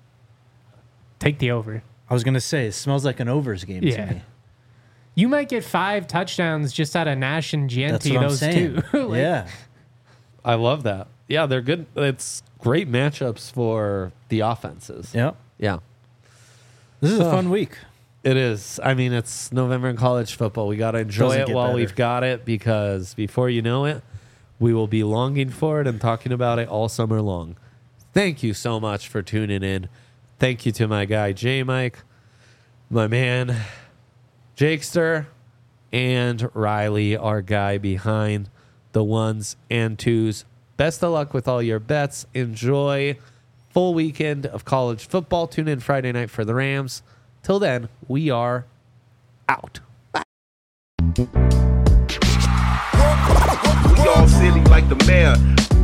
Take the over. I was going to say, it smells like an overs game Yeah. to me. You might get 5 touchdowns just out of Nash and That's Gianti, what I'm those saying. two. Like, Yeah. I love that. Yeah, they're good. It's great matchups for the offenses. Yep. Yeah, This is a fun week. it is. I mean, it's November in college football. We got to enjoy Doesn't it get while better. we've got it, because before you know it, we will be longing for it and talking about it all summer long. Thank you so much for tuning in. Thank you to my guy, J-Mike, my man, Jakester, and Riley, our guy behind the ones and twos. Best of luck with all your bets. Enjoy full weekend of college football. Tune in Friday night for the Rams. Till then, we are out. We all silly like the mayor.